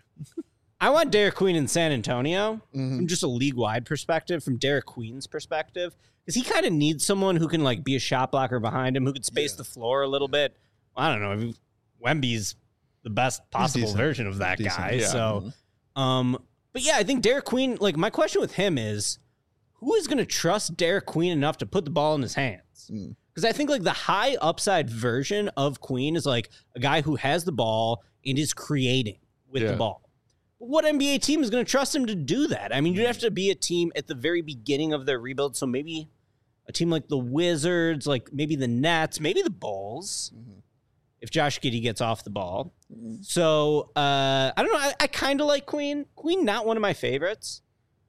I want Derek Queen in San Antonio Mhm. from just a league-wide perspective, from Derek Queen's perspective, because he kind of needs someone who can like be a shot blocker behind him, who can space Yeah. the floor a little bit. I don't know. I mean, Wemby's the best possible decent. version of that Decent. guy. Yeah. So, um, but yeah, I think Derek Queen. Like my question with him is, who is going to trust Derek Queen enough to put the ball in his hands? Mm. Because I think like the high upside version of Queen is like a guy who has the ball and is creating with Yeah. the ball. What N B A team is going to trust him to do that? I mean, you'd have to be a team at the very beginning of their rebuild. So maybe a team like the Wizards, like maybe the Nets, maybe the Bulls, Mhm. if Josh Giddey gets off the ball. Mhm. So uh, I don't know. I, I kind of like Queen. Queen, not one of my favorites.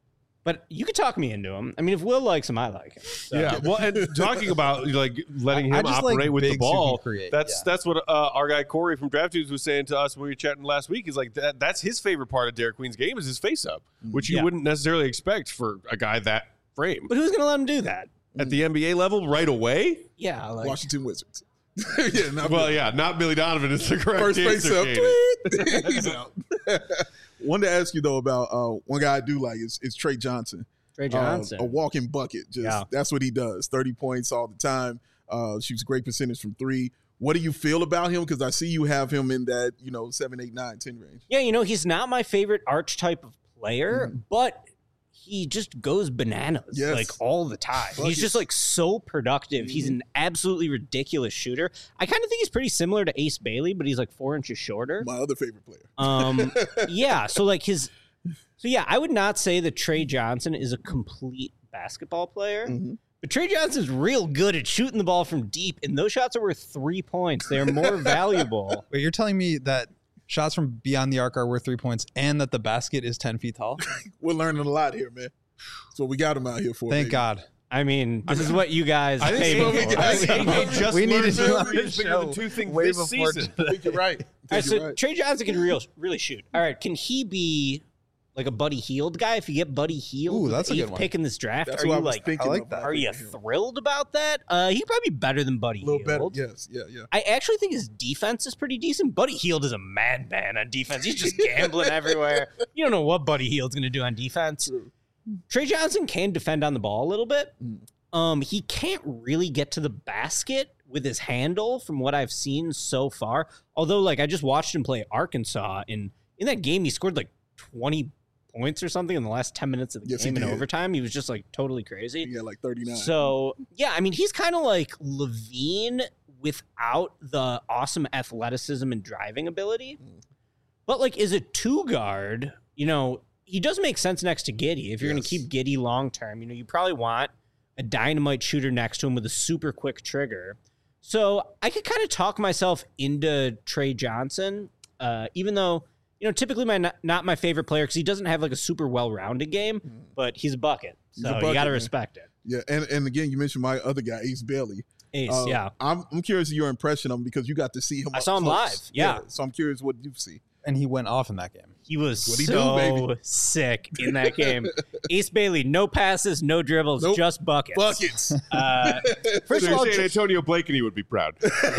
But you could talk me into him. I mean, if Will likes him, I like him. So. Yeah, well, and talking about like letting I- I him just like operate with the bigs who can ball, create, that's yeah. that's what uh, our guy Corey from Draft Dudes was saying to us when we were chatting last week. He's like, that that's his favorite part of Derek Queen's game is his face up, which you Yeah. wouldn't necessarily expect for a guy that frame But who's going to let him do that? at the N B A level right away. Yeah. Like, Washington Wizards. yeah, not Well, Billy. yeah, not Billy Donovan is the correct First face answer. up. Katie. Tweet. He's out. Wanted to ask you though about uh, one guy I do like is, is Trey Johnson. Trey Uh, Johnson. a walking bucket. Just Yeah. that's what he does. thirty points all the time. Uh, shoots a great percentage from three. What do you feel about him? Because I see you have him in that, you know, seven, eight, nine, ten range. Yeah, you know, he's not my favorite archetype of player, Mm-hmm. but he just goes bananas Yes. like all the time. Buckets. He's just like so productive. He's Mm-hmm. an absolutely ridiculous shooter. I kind of think he's pretty similar to Ace Bailey, but he's like four inches shorter. My other favorite player. Um, yeah. So like his, so yeah, I would not say that Trey Johnson is a complete basketball player, Mhm. but Trey Johnson's real good at shooting the ball from deep, and those shots are worth three points. They're more valuable. Wait, you're telling me that shots from beyond the arc are worth three points and that the basket is ten feet tall? We're learning a lot here, man. So we got him out here for. Thank baby. God. I mean, this is what you guys I pay think me so. for. I think they just We need learned to do earlier on this bigger than show two things way this before season. I think you're right. I All right, think so you're right. Trey Johnson can real, really shoot. All right, can he be like a Buddy Hield guy? If you get Buddy Hield, Ooh, with that's the a good eighth one. pick in this draft, That's are what you I was like? thinking. I like of. that. Are you thrilled about that? Uh, he'd probably be better than Buddy A little better. Hield. Yes. Yeah. Yeah. I actually think his defense is pretty decent. Buddy Hield is a madman on defense. He's just gambling everywhere. You don't know what Buddy Hield's going to do on defense. True. Trey Johnson can defend on the ball a little bit. Mm. Um, he can't really get to the basket with his handle from what I've seen so far. Although, like, I just watched him play Arkansas, and in that game, he scored like twenty points or something in the last ten minutes of the Yes, he game in did. overtime. He was just like totally crazy. He got like thirty-nine. So, yeah, I mean, he's kind of like Levine without the awesome athleticism and driving ability. But, like, as a two guard, you know, he does make sense next to Giddey. If you're going to Yes. keep Giddey long term, you know, you probably want a dynamite shooter next to him with a super quick trigger. So I could kind of talk myself into Trey Johnson, uh, even though, you know, typically my not, not my favorite player because he doesn't have like a super well-rounded game, but he's a bucket. He's So a you bucket, got to man. respect it. yeah, and and again, you mentioned my other guy, Ace Bailey. Ace, Uh, yeah. I'm I'm curious of your impression of him because you got to see him. I up saw him close. live, yeah. So I'm curious what you see. And he went off in that game. He was What'd he do, so baby? sick in that game. Ace Bailey, no passes, no dribbles, Nope. just buckets. Buckets. Uh, So first of you're all, saying ju- Antonio Blakeney would be proud.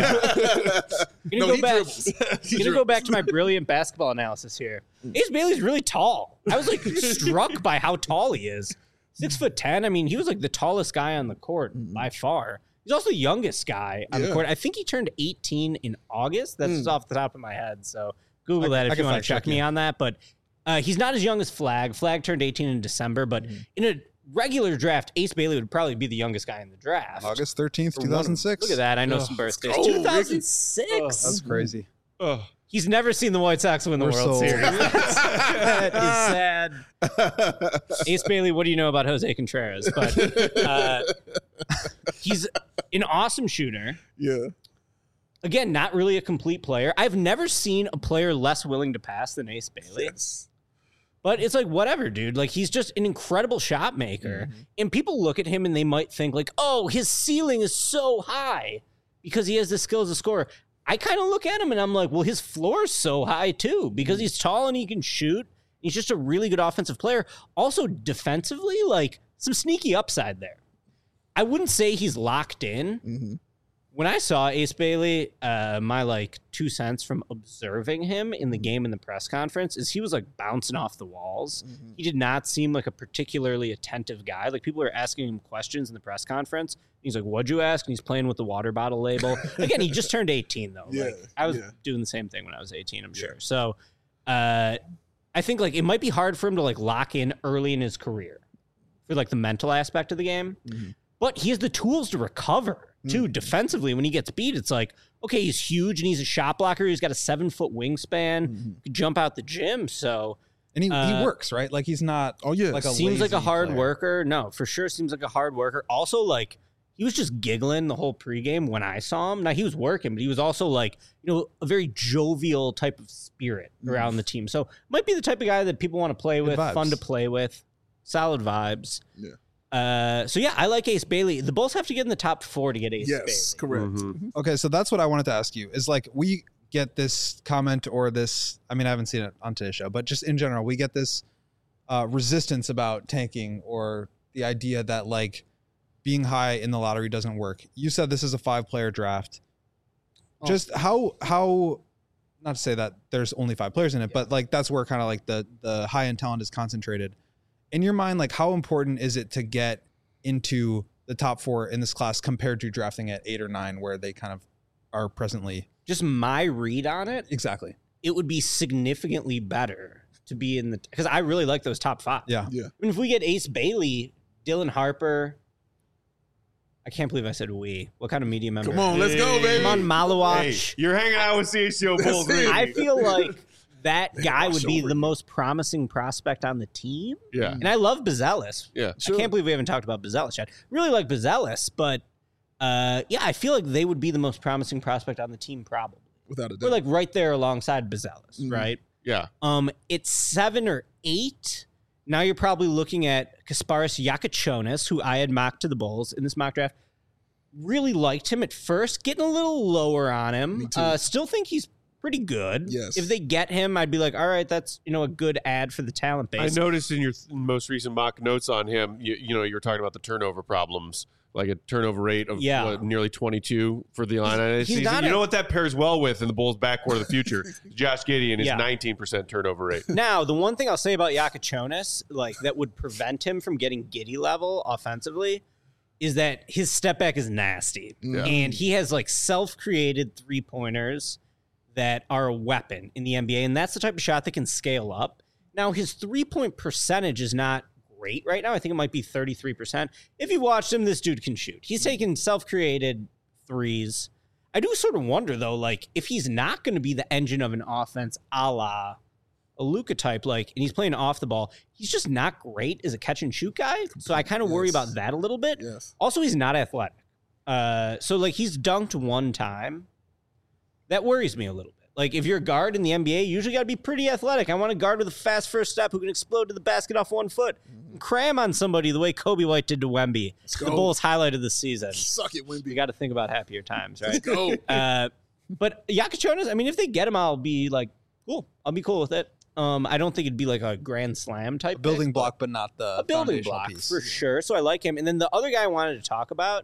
gonna no, go he back. dribbles. He I'm gonna go dribbles. back to my brilliant basketball analysis here. Ace Bailey's really tall. I was like struck by how tall he is. Six foot ten. I mean, he was like the tallest guy on the court by far. He's also the youngest guy on the Yeah. court. I think he turned eighteen in August. That's just off the top of my head. So Google I- that I if can you want fact to check check me you. on that. But uh, he's not as young as Flag. Flag turned eighteen in December. But in a regular draft, Ace Bailey would probably be the youngest guy in the draft. August thirteenth, For two one of thousand them. six. Look at that. I know Ugh, some birthdays. go, Ricky. two thousand six. That's crazy. Oh, He's never seen the White Sox win the We're World sold. Series. That is sad. Ace Bailey, what do you know about Jose Contreras? But uh, he's an awesome shooter. Yeah. Again, not really a complete player. I've never seen a player less willing to pass than Ace Bailey. Yes. But it's like, whatever, dude. Like, he's just an incredible shot maker. And people look at him and they might think, like, oh, his ceiling is so high because he has the skill as a scorer. I kind of look at him and I'm like, well, his floor is so high too because he's tall and he can shoot. He's just a really good offensive player. Also, defensively, like, some sneaky upside there. I wouldn't say he's locked in. Mhm. When I saw Ace Bailey, uh, my like two cents from observing him in the game in the press conference is he was like bouncing off the walls. Mhm. He did not seem like a particularly attentive guy. Like people were asking him questions in the press conference. He's like, "What'd you ask?" And he's playing with the water bottle label. Again, he just turned eighteen though. Yeah, like, I was yeah. doing the same thing when I was eighteen. I'm Yeah. sure. So, uh, I think like it might be hard for him to like lock in early in his career for like the mental aspect of the game. Mhm. But he has the tools to recover too defensively. When he gets beat, it's like, okay, he's huge and he's a shot blocker. He's got a seven foot wingspan, Mhm. could jump out the gym. So And he, Uh, he works, right? Like he's not Oh yeah. like a seems like a lazy hard player. worker. No, for sure seems like a hard worker. Also, like he was just giggling the whole pregame when I saw him. Now he was working, but he was also like, you know, a very jovial type of spirit around the team. So might be the type of guy that people want to play Good with, vibes. fun to play with, solid vibes. Yeah. Uh, so yeah, I like Ace Bailey. The Bulls have to get in the top four to get Ace Yes. Bailey. Correct. mhm. Okay, so that's what I wanted to ask you. Is like we get this comment or this. I mean, I haven't seen it on today's show, but just in general, we get this uh, resistance about tanking or the idea that like being high in the lottery doesn't work. You said this is a five-player draft. Oh. Just how how not to say that there's only five players in it, but like that's where kind of like the the high end talent is concentrated. In your mind, like how important is it to get into the top four in this class compared to drafting at eight or nine where they kind of are presently? Just my read on it, Exactly. it would be significantly better to be in the because I really like those top five. Yeah. Yeah. I mean, if we get Ace Bailey, Dylan Harper, I can't believe I said we. What kind of media member? Come on, let's go, baby. Come on, Malawach. Hey, you're hanging out with C H O Bulls. That's it. baby. I feel like that guy would be over the you. most promising prospect on the team. Yeah. And I love Bazelis. Yeah. I can't believe we haven't talked about Bazelis yet. Really like Bazelis, but uh, yeah, I feel like they would be the most promising prospect on the team, probably. Without a doubt. We're like right there alongside Bazelis, Mhm. right? Yeah. Um, it's seven or eight. Now you're probably looking at Kasparis Yakachonis, who I had mocked to the Bulls in this mock draft. Really liked him at first, getting a little lower on Me him. too. Uh, still think he's pretty good. Yes. If they get him, I'd be like, all right, that's you know a good ad for the talent I base. noticed in your th- most recent mock notes on him, you, you know, you were talking about the turnover problems, like a turnover rate of Yeah. what, nearly twenty-two for the Illini this he's season. not You a- know what that pairs well with in the Bulls' backcourt of the future? Josh Giddey and his Yeah. nineteen percent turnover rate. Now, the one thing I'll say about Yakachonis, like that would prevent him from getting Giddy level offensively, is that his step back is nasty. Yeah. And he has like self-created three-pointers that are a weapon in the N B A. And that's the type of shot that can scale up. Now, his three-point percentage is not great right now. I think it might be thirty-three percent. If you watched him, this dude can shoot. He's taking self-created threes. I do sort of wonder, though, like, if he's not going to be the engine of an offense a la a Luka type, like, and he's playing off the ball, he's just not great as a catch and shoot guy. So I kind of worry Yes. about that a little bit. Yes. Also, he's not athletic. Uh, so like he's dunked one time. That worries me a little bit. Like if you're a guard in the N B A, you usually got to be pretty athletic. I want a guard with a fast first step who can explode to the basket off one foot, and cram on somebody the way Kobe White did to Wemby. The go. Bulls highlighted this season. Suck it, You Wimby. got to think about happier times, right? Let's go. Uh, but Yakachonis, I mean, if they get him, I'll be like, cool. I'll be cool with it. Um, I don't think it'd be like a grand slam type A building pick, block, but not the a building foundational block piece. for sure. So I like him. And then the other guy I wanted to talk about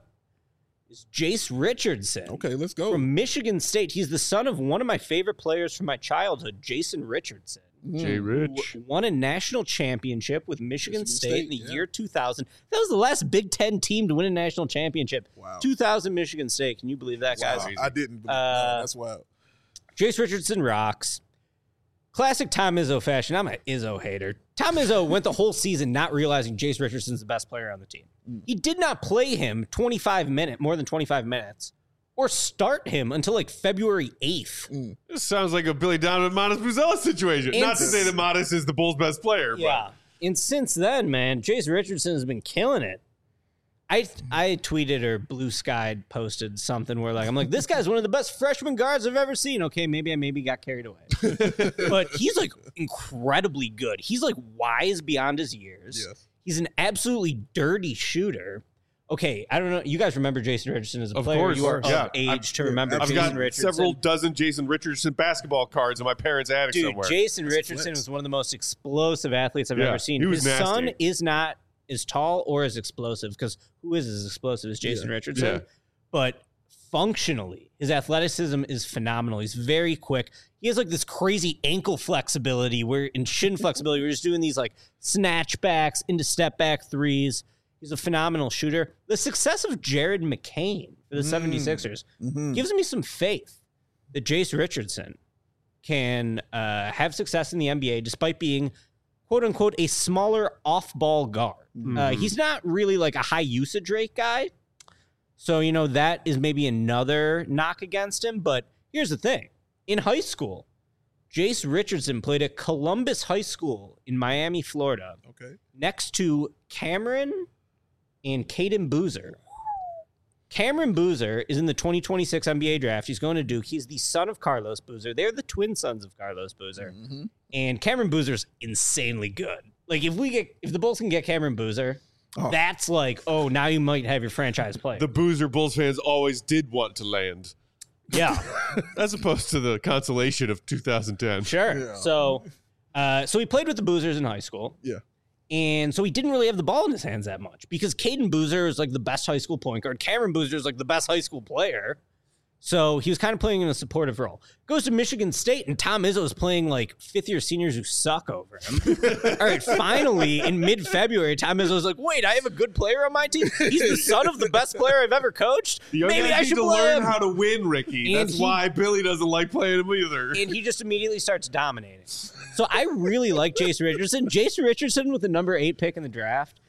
is Jace Richardson Okay, let's go. from Michigan State. He's the son of one of my favorite players from my childhood, Jason Richardson. Jay who Rich. won a national championship with Michigan, Michigan State, State, in the yeah. year two thousand. That was the last Big Ten team to win a national championship. Wow. two thousand Michigan State. Can you believe that, guys? Wow, I didn't. Believe, Uh, no, that's wild. Jace Richardson rocks. Classic Tom Izzo fashion. I'm an Izzo hater. Tom Izzo went the whole season not realizing Jace Richardson's the best player on the team. He did not play him twenty-five minutes, more than twenty-five minutes, or start him until like February eighth. This sounds like a Billy Donovan Modest Buzelis situation. And- Not to say that Modest is the Bulls' best player, Yeah. And since then, man, Jace Richardson has been killing it. I I tweeted or Blue Sky posted something where like I'm like, this guy's one of the best freshman guards I've ever seen. Okay, maybe I maybe got carried away. But he's like incredibly good. He's like wise beyond his years. Yes. He's an absolutely dirty shooter. Okay, I don't know. You guys remember Jason Richardson as a Of player. course, you are yeah. of age I've- to remember I've Jason got Richardson. several dozen Jason Richardson basketball cards in my parents' attic Dude, somewhere. Jason That's Richardson flex. was one of the most explosive athletes I've Yeah, ever seen. he was His nasty. son is not as tall or as explosive because who is as explosive as Jason Yeah. Richardson? Yeah. But functionally, his athleticism is phenomenal. He's very quick. He has like this crazy ankle flexibility where in shin flexibility, we're just doing these like snatch backs into step back threes. He's a phenomenal shooter. The success of Jared McCain for the Mm. seventy-sixers Mhm. gives me some faith that Jace Richardson can uh, have success in the N B A despite being, quote unquote, a smaller off ball guard. Uh, he's not really like a high usage rate guy. So, you know, that is maybe another knock against him. But here's the thing in high school, Jace Richardson played at Columbus High School in Miami, Florida, Okay. next to Cameron and Caden Boozer. Cameron Boozer is in the twenty twenty-six N B A draft. He's going to Duke. He's the son of Carlos Boozer. They're the twin sons of Carlos Boozer. Mm-hmm. And Cameron Boozer's insanely good. Like if we get if the Bulls can get Cameron Boozer, Oh. that's like, oh, now you might have your franchise player. The Boozer Bulls fans always did want to land, yeah, as opposed to the consolation of two thousand ten. sure. Yeah. So uh, so he played with the Boozers in high school. Yeah. And so he didn't really have the ball in his hands that much because Caden Boozer is like the best high school point guard. Cameron Boozer is like the best high school player. So he was kind of playing in a supportive role. Goes to Michigan State, and Tom Izzo is playing like fifth year seniors who suck over him. All right, finally in mid February, Tom Izzo's like, wait, I have a good player on my team. He's the son of the best player I've ever coached. The young Maybe guys I need should to play learn him. how to win, Ricky. And That's he- why Billy doesn't like playing him either. And he just immediately starts dominating. So I really like Jason Richardson. Jason Richardson with the number eight pick in the draft.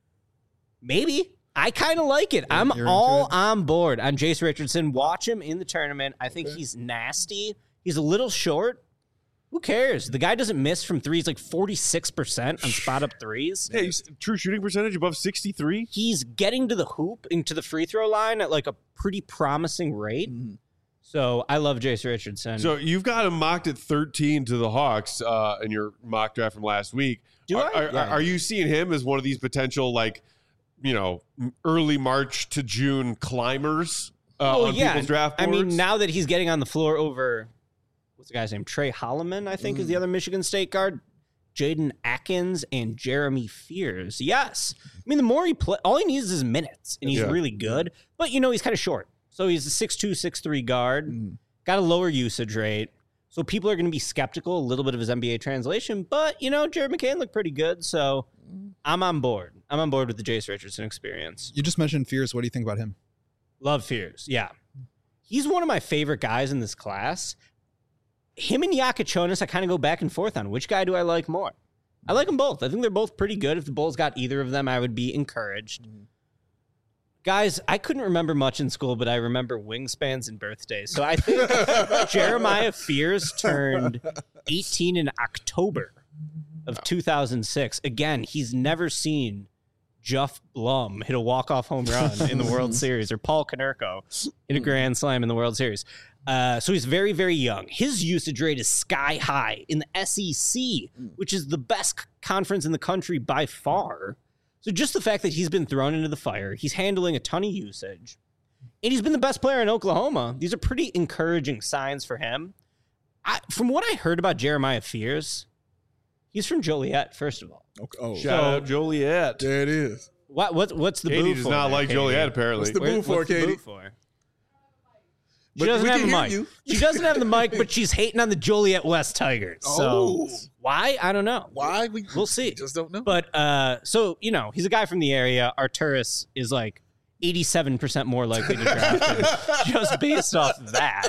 Maybe. I kind of like it. I'm You're all into it? on board on Jason Richardson. Watch him in the tournament. I think he's nasty. He's a little short. Who cares? The guy doesn't miss from threes like forty-six percent on spot up threes. Hey, true shooting percentage above sixty-three. He's getting to the hoop, into the free throw line at like a pretty promising rate. Mhm. So I love Jason Richardson. So you've got him mocked at thirteen to the Hawks uh, in your mock draft from last week. Do are, I? Are, Yeah. are you seeing him as one of these potential, like, you know, early March to June climbers uh, Oh, on yeah. people's draft I boards? mean, now that he's getting on the floor over, what's the guy's name? Trey Holloman, I think, is the other Michigan State guard. Jaden Atkins and Jeremy Fears. Yes. I mean, the more he play, all he needs is minutes, and he's Yeah. really good. But, you know, he's kind of short. So he's a six two, six three guard, Mhm. got a lower usage rate. So people are going to be skeptical a little bit of his N B A translation. But, you know, Jared McCain looked pretty good. So I'm on board. I'm on board with the Jace Richardson experience. You just mentioned Fears. What do you think about him? Love Fears. Yeah. He's one of my favorite guys in this class. Him and Yakachonis, I kind of go back and forth on which guy do I like more. I like them both. I think they're both pretty good. If the Bulls got either of them, I would be encouraged. Guys, I couldn't remember much in school, but I remember wingspans and birthdays. So I think Jeremiah Fears turned eighteen in October of two thousand six. Again, he's never seen Jeff Blum hit a walk-off home run in the World Series, or Paul Konerko hit a grand slam in the World Series. Uh, so he's very, very young. His usage rate is sky high in the S E C, which is the best c- conference in the country by far. So just the fact that he's been thrown into the fire, he's handling a ton of usage, and he's been the best player in Oklahoma. These are pretty encouraging signs for him. I, from what I heard about Jeremiah Fears, he's from Joliet, first of all. Okay. Oh, Shout So- out Joliet. there it is. What, what what's the Katie boo does for not there, like Katie? Joliet, apparently. What's the Where- boo for, what's the Katie? boo for? She But doesn't we have can the hear mic. you. She doesn't have the mic, but she's hating on the Joliet West Tigers. So Oh. why? I don't know. Why? We, We'll see. just don't know. But uh, so you know, he's a guy from the area. Arturis is like eighty-seven percent more likely to draft him just based off of that.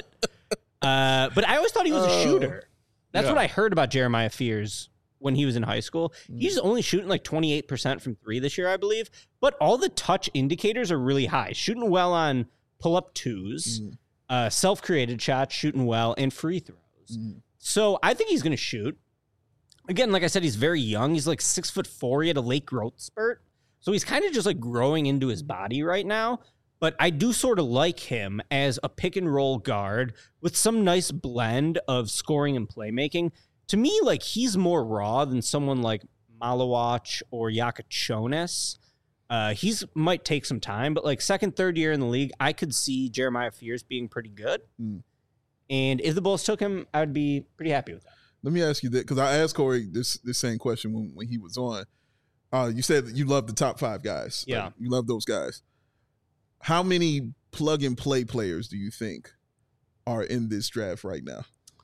Uh, but I always thought he was a Oh. shooter. That's Yeah. what I heard about Jeremiah Fears when he was in high school. He's only shooting like twenty-eight percent from three this year, I believe. But all the touch indicators are really high. Shooting well on pull-up twos, Mm. uh, self-created shots, shooting well, and free throws. Mm. So I think he's going to shoot. Again, like I said, he's very young. He's like six foot four. He had a late growth spurt. So he's kind of just like growing into his body right now. But I do sort of like him as a pick and roll guard with some nice blend of scoring and playmaking. To me, like he's more raw than someone like Malawach or Yakachonis. Uh, he's might take some time, but like second, third year in the league, I could see Jeremiah Fears being pretty good. Mm. And if the Bulls took him, I would be pretty happy with that. Let me ask you that, because I asked Corey this this same question when, when he was on. Uh, you said that you love the top five guys. Like, Yeah. you love those guys. How many plug and play players do you think are in this draft right now?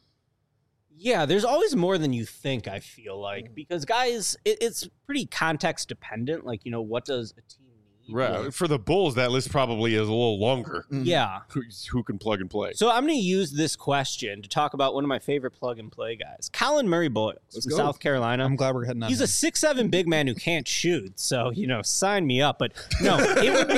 Yeah, there's always more than you think, I feel like, because guys, it, it's pretty context dependent. Like, you know, what does a team need? Right. For the Bulls, that list probably is a little longer. Mm. Yeah. Who, who can plug and play? So I'm going to use this question to talk about one of my favorite plug and play guys, Colin Murray Boyles Let's from go. South Carolina. I'm glad we're heading on. He's him. a six seven big man who can't shoot, so you know, sign me up. But no, it would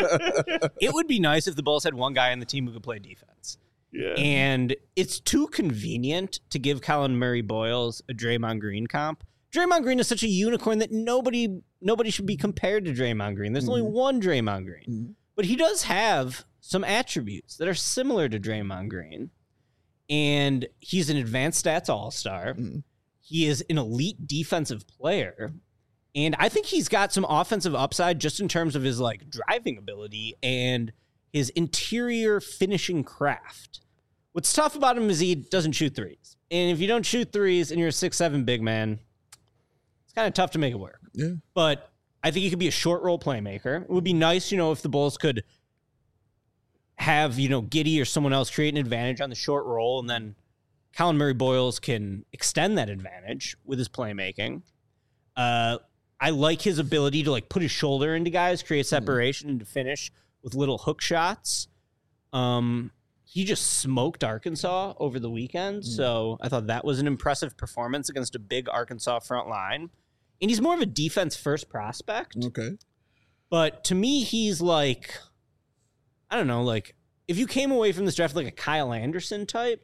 be it would be nice if the Bulls had one guy on the team who could play defense. Yeah. And it's too convenient to give Colin Murray Boyles a Draymond Green comp. Draymond Green is such a unicorn that nobody nobody should be compared to Draymond Green. There's only Mhm. one Draymond Green. Mhm. But he does have some attributes that are similar to Draymond Green. And he's an advanced stats all-star. Mhm. He is an elite defensive player. And I think he's got some offensive upside just in terms of his like driving ability and his interior finishing craft. What's tough about him is he doesn't shoot threes. And if you don't shoot threes and you're a six seven big man, it's kind of tough to make it work. Yeah. But I think he could be a short role playmaker. It would be nice, you know, if the Bulls could have, you know, Giddey or someone else create an advantage on the short roll, and then Colin Murray Boyles can extend that advantage with his playmaking. Uh, I like his ability to like put his shoulder into guys, create separation, and to finish with little hook shots. Um, he just smoked Arkansas over the weekend. Mm. So I thought that was an impressive performance against a big Arkansas front line. And he's more of a defense first prospect. Okay. But to me, he's like, I don't know, like if you came away from this draft like a Kyle Anderson type,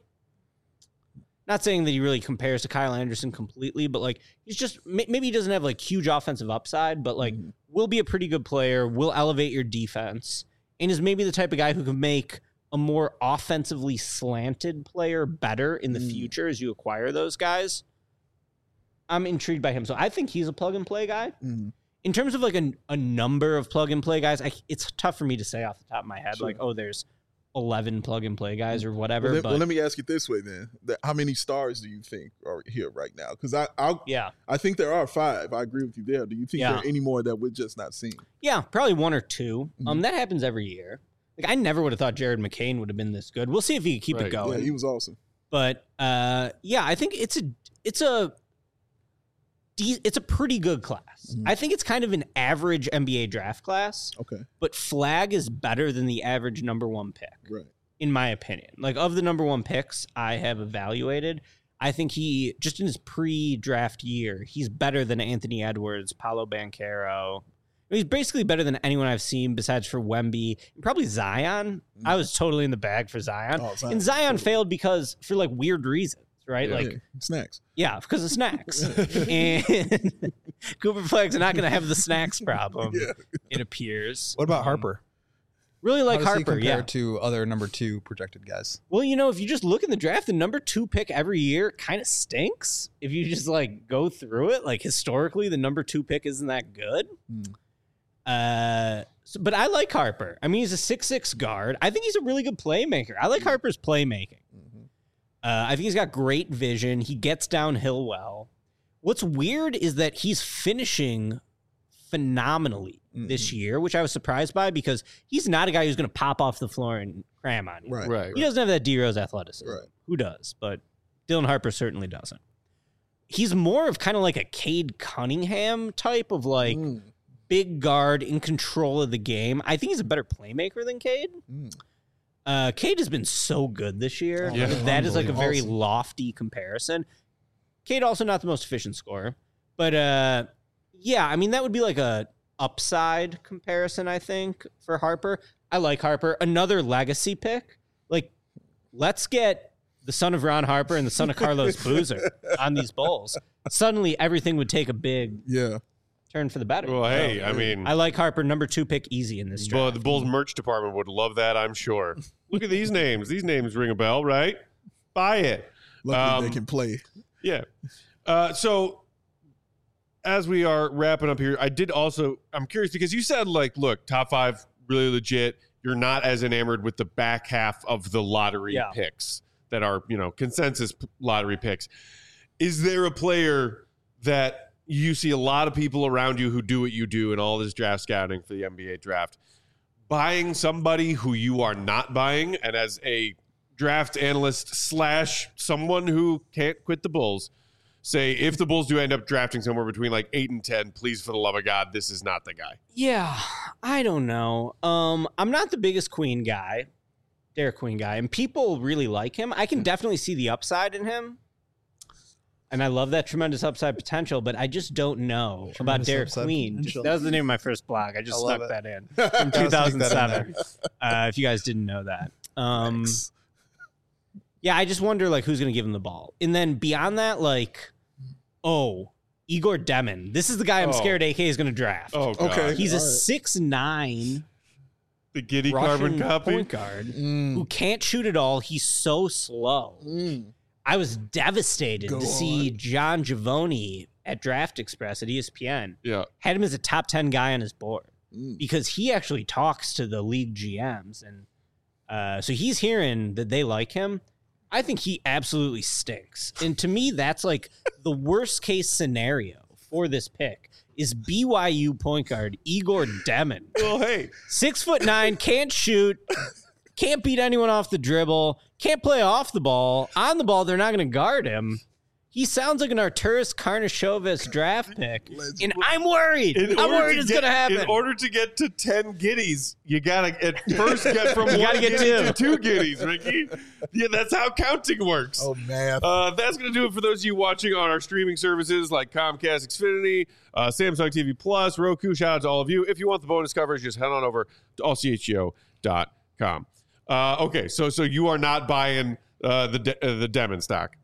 not saying that he really compares to Kyle Anderson completely, but like he's just, maybe he doesn't have like huge offensive upside, but like mm. will be a pretty good player, will elevate your defense, and is maybe the type of guy who can make a more offensively slanted player better in the mm. future as you acquire those guys. I'm intrigued by him. So I think he's a plug and play guy. Mm. In terms of like a, a number of plug and play guys, I, it's tough for me to say off the top of my head, sure. like, oh, there's eleven plug and play guys or whatever. Well, let, but well, let me ask you this way then: how many stars do you think are here right now? Because I, I, yeah, I think there are five. I agree with you there. Do you think yeah. there are any more that we're just not seeing? Yeah, probably one or two. Mm-hmm. Um, that happens every year. Like I never would have thought Jared McCain would have been this good. We'll see if he can keep right. it going. Yeah, he was awesome. But uh, yeah, I think it's a it's a it's a pretty good class. Mm-hmm. I think it's kind of an average N B A draft class. Okay, but Flagg is better than the average number one pick. Right. In my opinion, like of the number one picks I have evaluated, I think he just in his pre-draft year, he's better than Anthony Edwards, Paolo Banchero. He's basically better than anyone I've seen besides for Wemby and probably Zion. Mm-hmm. I was totally in the bag for Zion, oh, Zion. and Zion totally. failed because for like weird reasons, right? Yeah, like yeah. snacks. Yeah, because of snacks. And Cooper Flagg's not going to have the snacks problem. Yeah. It appears. What about um, Harper? Really like How does Harper, he compare yeah. to other number two projected guys? Well, you know, if you just look in the draft, the number two pick every year kind of stinks. If you just like go through it, like historically, the number two pick isn't that good. Hmm. Uh, so, but I like Harper. I mean, he's a six six guard. I think he's a really good playmaker. I like Harper's playmaking. Mm-hmm. Uh, I think he's got great vision. He gets downhill well. What's weird is that he's finishing phenomenally mm-hmm. this year, which I was surprised by because he's not a guy who's going to pop off the floor and cram on you. Right, right. He doesn't have that D-Rose athleticism. Right. Who does? But Dylan Harper certainly doesn't. He's more of kind of like a Cade Cunningham type of like mm. big guard in control of the game. I think he's a better playmaker than Cade. Mm. Uh, Cade has been so good this year. Oh, yeah. That is like a very awesome. lofty comparison. Cade also not the most efficient scorer, but uh, yeah, I mean that would be like a upside comparison. I think for Harper, I like Harper. Another legacy pick. Like, let's get the son of Ron Harper and the son of Carlos Boozer on these Bulls. Suddenly, everything would take a big yeah. turn for the better. Well, hey, I mean, I like Harper, number two pick, easy in this draft. Well, the Bulls merch department would love that, I'm sure. Look at these names. These names ring a bell, right? Buy it. Luckily, um, they can play. Yeah. Uh, so, as we are wrapping up here, I did also, I'm curious because you said, like, look, top five, really legit. You're not as enamored with the back half of the lottery yeah. picks that are, you know, consensus lottery picks. Is there a player that you see a lot of people around you who do what you do in all this draft scouting for the N B A draft, buying somebody who you are not buying, and as a draft analyst slash someone who can't quit the Bulls, say if the Bulls do end up drafting somewhere between like eight and ten, please, for the love of God, this is not the guy. Yeah, I don't know. Um, I'm not the biggest Queen guy, Derek Queen guy, and people really like him. I can definitely see the upside in him. And I love that tremendous upside potential, but I just don't know tremendous about Derek Queen. Just, that was the name of my first blog. I just I snuck that in from two thousand seven. uh, if you guys didn't know that. Um, yeah, I just wonder like who's going to give him the ball. And then beyond that, like, oh, Igor Demon. This is the guy I'm oh. scared A K is going to draft. Oh, God. Okay. He's All a right. six nine The giddy Russian carbon copy point guard Mm. who can't shoot at all. He's so slow. Mm. I was devastated Go to see on. John Giavoni at Draft Express at E S P N. Yeah. Had him as a top ten guy on his board Mm. because he actually talks to the league G Ms. And uh, so he's hearing that they like him. I think he absolutely stinks. And to me, that's like the worst case scenario for this pick is B Y U point guard Igor Demon. Well, hey. Six foot nine, can't shoot, can't beat anyone off the dribble, can't play off the ball. On the ball, they're not going to guard him. He sounds like an Arturas Karnisovas draft pick, Let's- and I'm worried. In I'm order worried to it's get- going to happen. In order to get to ten giddies, you gotta at first get from You one gotta get giddy two. to two giddies, Ricky. Yeah, that's how counting works. Oh man. Uh, that's going to do it for those of you watching on our streaming services like Comcast, Xfinity, uh, Samsung T V Plus, Roku. Shout out to all of you. If you want the bonus coverage, just head on over to all c h g o dot com. Uh, okay, so so you are not buying uh, the de- uh, the Demon stock.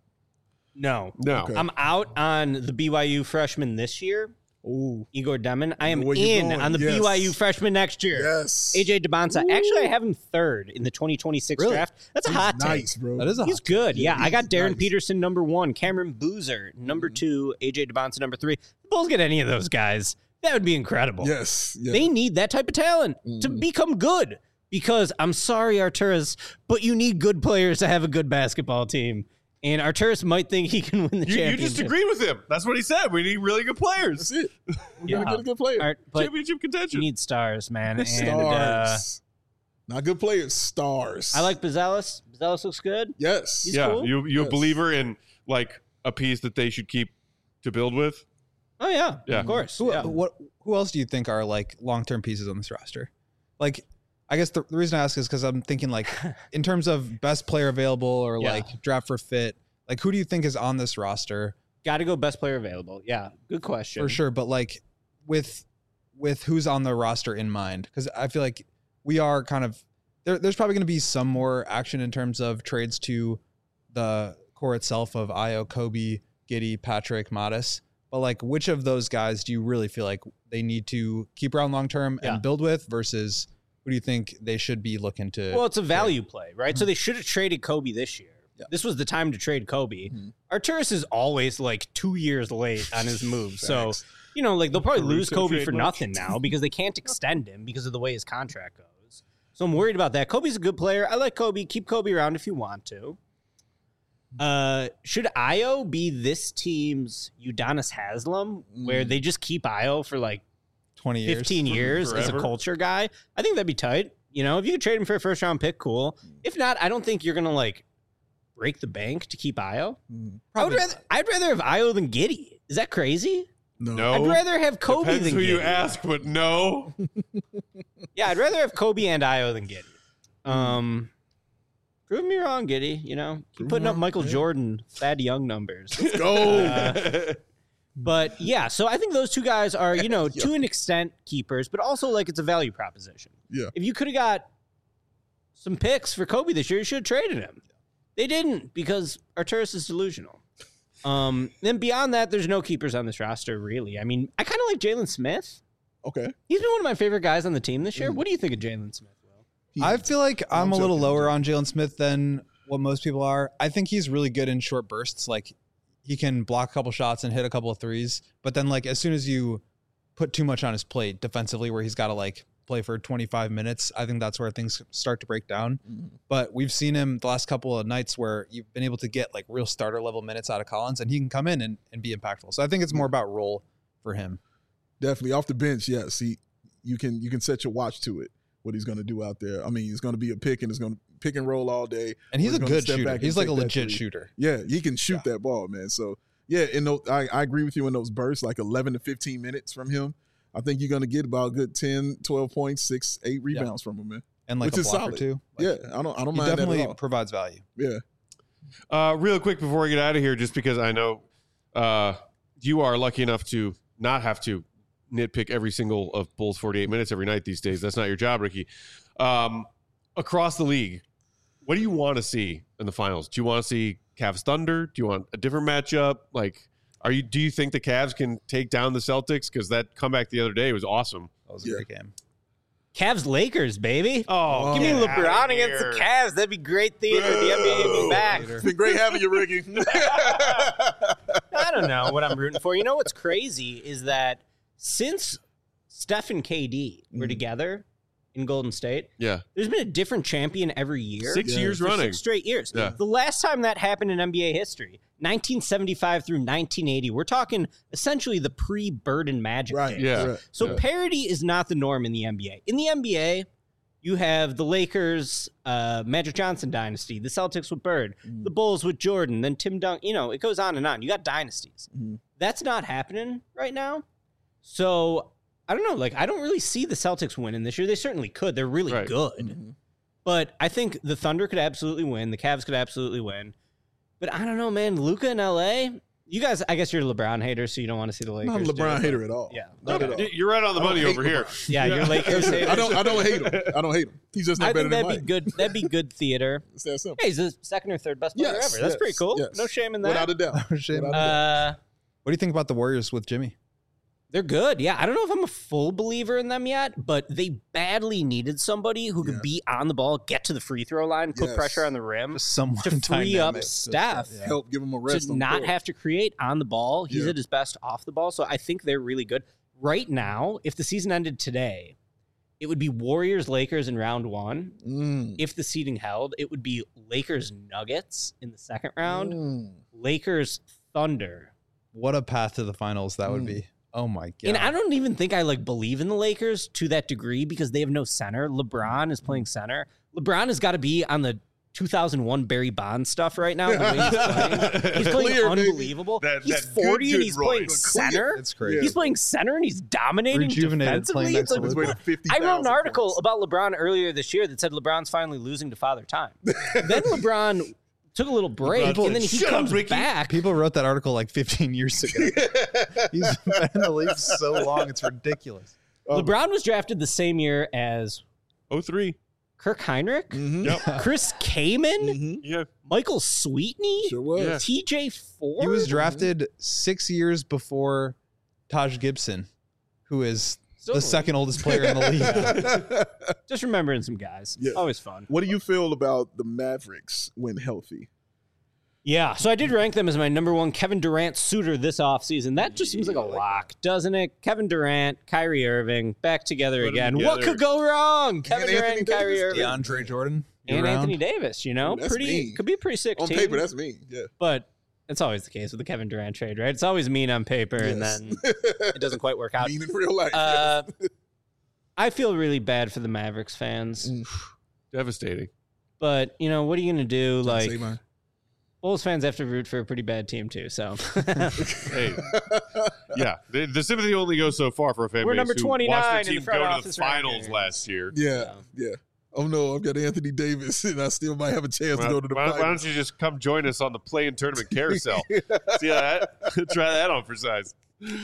no. No. Okay. I'm out on the B Y U freshman this year, Ooh. Igor Demon. I am Where you in going? on the Yes. B Y U freshman next year. Yes. A J Debonsa. Actually, I have him third in the twenty twenty-six Really? draft. That's a He's hot take. nice, bro. That is a He's hot good. Yeah, I got he's Darren nice. Peterson number one, Cameron Boozer number two, A J Debonsa number three. The Bulls get any of those guys, that would be incredible. Yes. Yeah. They need that type of talent to Mhm. become good. Because I'm sorry, Arturas, but you need good players to have a good basketball team. And Arturas might think he can win the You, you championship. just agreed with him. That's what he said. We need really good players. That's it. We're Yeah. gonna get a good player. All right, but Championship you contention. need stars, man. And Stars. uh, Not good players. Stars. I like Bazelis. Bazelis looks good. Yes. He's yeah, cool. you you a Yes. believer in like a piece that they should keep to build with? Oh yeah, Yeah. of course. Who, Yeah. what? Who else do you think are like long term pieces on this roster? Like, I guess the, the reason I ask is because I'm thinking like in terms of best player available or Yeah. like draft for fit. Like, who do you think is on this roster Got to go best player available. Yeah, good question. for sure? But like with with who's on the roster in mind, because I feel like we are kind of there. There's probably going to be some more action in terms of trades to the core itself of Io, Kobe, Giddey, Patrick, Modis. But like, which of those guys do you really feel like they need to keep around long term Yeah. and build with versus who do you think they should be looking to? Well, it's a value play, right? So they should have traded Kobe this year. Yeah. This was the time to trade Kobe. Mhm. Arturas is always like two years late on his moves. So, Facts. you know, like they'll probably lose Caruso Kobe trade for much? nothing now because they can't extend him because of the way his contract goes. So I'm worried about that. Kobe's a good player. I like Kobe. Keep Kobe around if you want to. Uh, should Io be this team's Udonis Haslam, where Mm. they just keep Io for like twenty years. fifteen years as a Forever. culture guy? I think that'd be tight. You know, if you could trade him for a first round pick, cool. If not, I don't think you're gonna like break the bank to keep Io. Mhm. I would Probably rather I'd rather have Io than Giddey. Is that crazy? No. No. I'd rather have Kobe Depends than who Giddey. you ask, but no. Yeah, I'd rather have Kobe and Io than Giddey. Um, prove me wrong, Giddey. You know, keep Prove putting me up wrong, Michael yeah. Jordan, Thad Young numbers. Let's go. Uh, But yeah, so I think those two guys are, you know, to an extent keepers, but also like it's a value proposition. Yeah. If you could have got some picks for Kobe this year, you should have traded him. They didn't because Arturas is delusional. Um, then beyond that, there's no keepers on this roster, really. I mean, I kind of like Jalen Smith. Okay. He's been one of my favorite guys on the team this year. Mm. What do you think of Jalen Smith, Will? He- I feel like I'm, I'm a little joking, lower I'm on Jalen Smith than what most people are. I think he's really good in short bursts. Like he can block a couple shots and hit a couple of threes. But then like as soon as you put too much on his plate defensively where he's got to like play for twenty-five minutes, I think that's where things start to break down. Mhm. But we've seen him the last couple of nights where you've been able to get like real starter level minutes out of Collins and he can come in and, and be impactful. So I think it's more about role for him. Definitely off the bench. Yes, he you can you can set your watch to it. What he's going to do out there. I mean, he's going to be a pick and he's going to pick and roll all day. And he's Or a gonna good step shooter. back and He's like a take that legit three. shooter. Yeah, he can shoot that ball, man. So yeah, in those, I, I agree with you in those bursts, like eleven to fifteen minutes from him. I think you're going to get about a good ten, twelve points, six, eight rebounds from him, man. And like Which a is blocker solid. too. Like, yeah, I don't I don't He mind that definitely at all. provides value. Yeah. Uh, real quick before we get out of here, just because I know uh, you are lucky enough to not have to nitpick every single of Bulls forty-eight minutes every night these days. That's not your job, Ricky. Um, across the league, what do you want to see in the finals? Do you want to see Cavs Thunder? Do you want a different matchup? Like, are you? Do you think the Cavs can take down the Celtics? Because that comeback the other day was awesome. That was a Yeah. great game. Cavs Lakers, baby. Oh, Give me get LeBron outta against the here. Cavs. That'd be great theater. The N B A would be back. It's been great having you, Ricky. I don't know what I'm rooting for. You know what's crazy is that since Steph and K D were Mhm. together in Golden State, Yeah, there's been a different champion every year. six Yeah, years for running. Six straight years. Yeah. The last time that happened in N B A history, nineteen seventy-five through nineteen eighty. We're talking essentially the pre-Bird and Magic Right. days. Yeah. Right. So Yeah. parity is not the norm in the N B A. In the N B A, You have the Lakers, uh, Magic Johnson dynasty, the Celtics with Bird, mm-hmm. the Bulls with Jordan, then Tim Duncan. You know, it goes on and on. You got dynasties. Mm-hmm. That's not happening right now. So I don't know. Like, I don't really see the Celtics winning this year. They certainly could. They're really right. good. Mm-hmm. But I think the Thunder could absolutely win. The Cavs could absolutely win. But I don't know, man. Luka in L A. You guys, I guess you're a LeBron hater, so you don't want to see the Lakers. I'm not a LeBron hater at all. Yeah, not okay. at all. You're right on the money over here. Yeah, you're Lakers hater. I don't. I don't hate him. I don't hate him. He's just not I better think than that'd Mike. be good. That'd be good theater. It's that simple. Hey, he's the second or third best player yes, ever. That's yes, pretty cool. yes. No shame in that. Without a doubt. No shame. Without a doubt. Uh, what do you think about the Warriors with Jimmy? They're good. Yeah, I don't know if I'm a full believer in them yet, but they badly needed somebody who could yeah. be on the ball, get to the free throw line, put yes. pressure on the rim, Someone to free up Steph, yeah. help give him a rest. to not have to create on the ball. He's yeah. at his best off the ball, so I think they're really good. Right now, if the season ended today, it would be Warriors Lakers in round one. Mm. If the seeding held, it would be Lakers Nuggets in the second round, Mm. Lakers Thunder. What a path to the finals that would Mm. be. Oh my god! And I don't even think I like believe in the Lakers to that degree because they have no center. LeBron is playing center. LeBron has got to be on the two thousand one Barry Bonds stuff right now. The way he's playing, he's playing Clear, unbelievable. That- he's that forty good, and he's good playing Roy. center. It's crazy. He's playing center and he's dominating Rejuvenated, defensively. playing It's like, next to what- fifty I wrote an thousand article points. about LeBron earlier this year that said LeBron's finally losing to Father Time. Then LeBron took a little break LeBron and then he Shut comes up, Ricky. back. People wrote that article like fifteen years ago. He's been in the league so long, it's ridiculous. LeBron was drafted the same year as oh three Kirk Heinrich, Mm-hmm. Yep. Chris Kaman, Mm-hmm. Yeah. Michael Sweetney, Sure was. Yeah. T J Ford. He was drafted six years before Taj Gibson, who is Still the the second oldest player in the league. Just remembering some guys. Yeah. Always fun. What do you feel about the Mavericks when healthy? Yeah, so I did rank them as my number one Kevin Durant suitor this offseason. That just seems like a lock, doesn't it? Kevin Durant, Kyrie Irving, back together Put 'em again. together. What could go wrong? Kevin Anthony Durant and Kyrie Davis. Irving. DeAndre Jordan. you And around? Anthony Davis, you know? Ooh, that's pretty mean. could be a pretty sick On team. paper, that's me. Yeah. But it's always the case with the Kevin Durant trade, right? It's always mean on paper and Yes. then it doesn't quite work out. Mean in real life. Uh, yes. I feel really bad for the Mavericks fans. Mm. Devastating. But, you know, what are you going to do? Like, Say mine. Bulls fans have to root for a pretty bad team, too. So, Hey, yeah, the, the sympathy only goes so far for a fan We're base number who twenty-nine watched in their the team front go to the office right finals here. last year. Yeah, yeah. Oh no, I've got Anthony Davis, and I still might have a chance Why, to go to the why, why finals. don't you just come join us on the play-in tournament carousel? See how that? Try that on for size.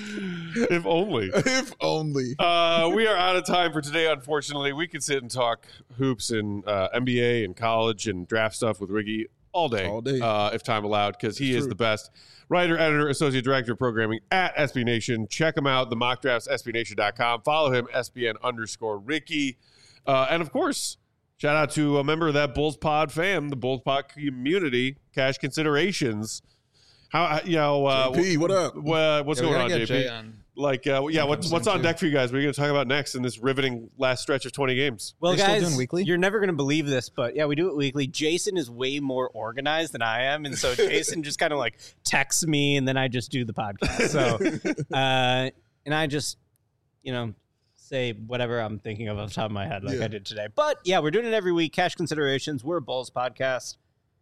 If only. If only. Uh, we are out of time for today, unfortunately. We could sit and talk hoops and uh, N B A and college and draft stuff with Ricky all day, All day. Uh, if time allowed, because he It's is true. the best writer, editor, associate director of programming at S B Nation. Check him out, the mock drafts, S B Nation dot com. Follow him, S B N underscore Ricky. Uh, and of course, shout out to a member of that Bulls Pod fam, the Bulls Pod community, Cash Considerations. How you know? Uh, J P, what up? wha- what's Yeah, we going gotta on, get J P? Jay on. Like, uh, yeah, what's Sometime what's on soon, deck for you guys? What are you going to talk about next in this riveting last stretch of twenty games? well, Are you still guys, doing weekly? you're never going to believe this, but yeah, we do it weekly. Jason is way more organized than I am. And so Jason just kind of like texts me and then I just do the podcast. So, uh, and I just, you know, say whatever I'm thinking of off the top of my head, like Yeah. I did today. But yeah, we're doing it every week. Cash Considerations. We're a Bulls podcast.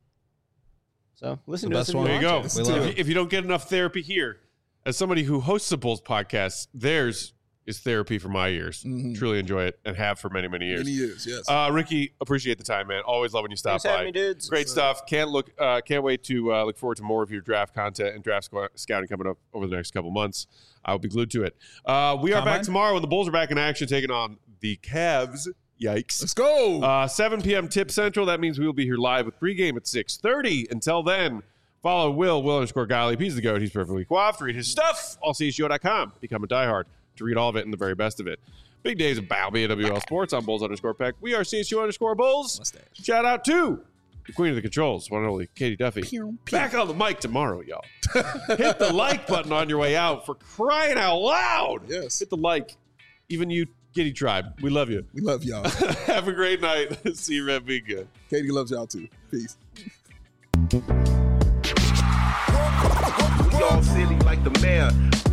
So listen The to best us. if one. you There you want go. to. We love If, it. you- if you don't get enough therapy here, as somebody who hosts a Bulls podcast, theirs is therapy for my ears. Mhm. Truly enjoy it and have for many, many years. Many years, yes. Uh, Ricky, appreciate the time, man. Always love when you stop Thanks for having by. me, dudes. Great stuff. Can't look. Uh, can't wait to uh, look forward to more of your draft content and draft squ- scouting coming up over the next couple months. I'll be glued to it. Uh, we are Combine? back tomorrow when the Bulls are back in action, taking on the Cavs. Yikes. Let's go. Uh, seven p.m. tip central. That means we will be here live with pregame at six thirty. Until then, follow Will, Will underscore Gottlieb. He's the goat. He's perfectly coiffed. Read his stuff. all C H G O dot com. Become a diehard to read all of it and the very best of it. Big days of Bow, B A W L Sports. I'm Bulls underscore Peck. We are C H G O underscore Bulls. Mustache. Shout out to the queen of the controls, one and only Katie Duffy. Pew, pew. Back on the mic tomorrow, y'all. Hit the like button on your way out for crying out loud. Yes. Hit the like. Even you, Giddy Tribe. We love you. We love y'all. Have a great night. See you, Red. Be good. Katie loves y'all too. Peace. We all silly like the mayor.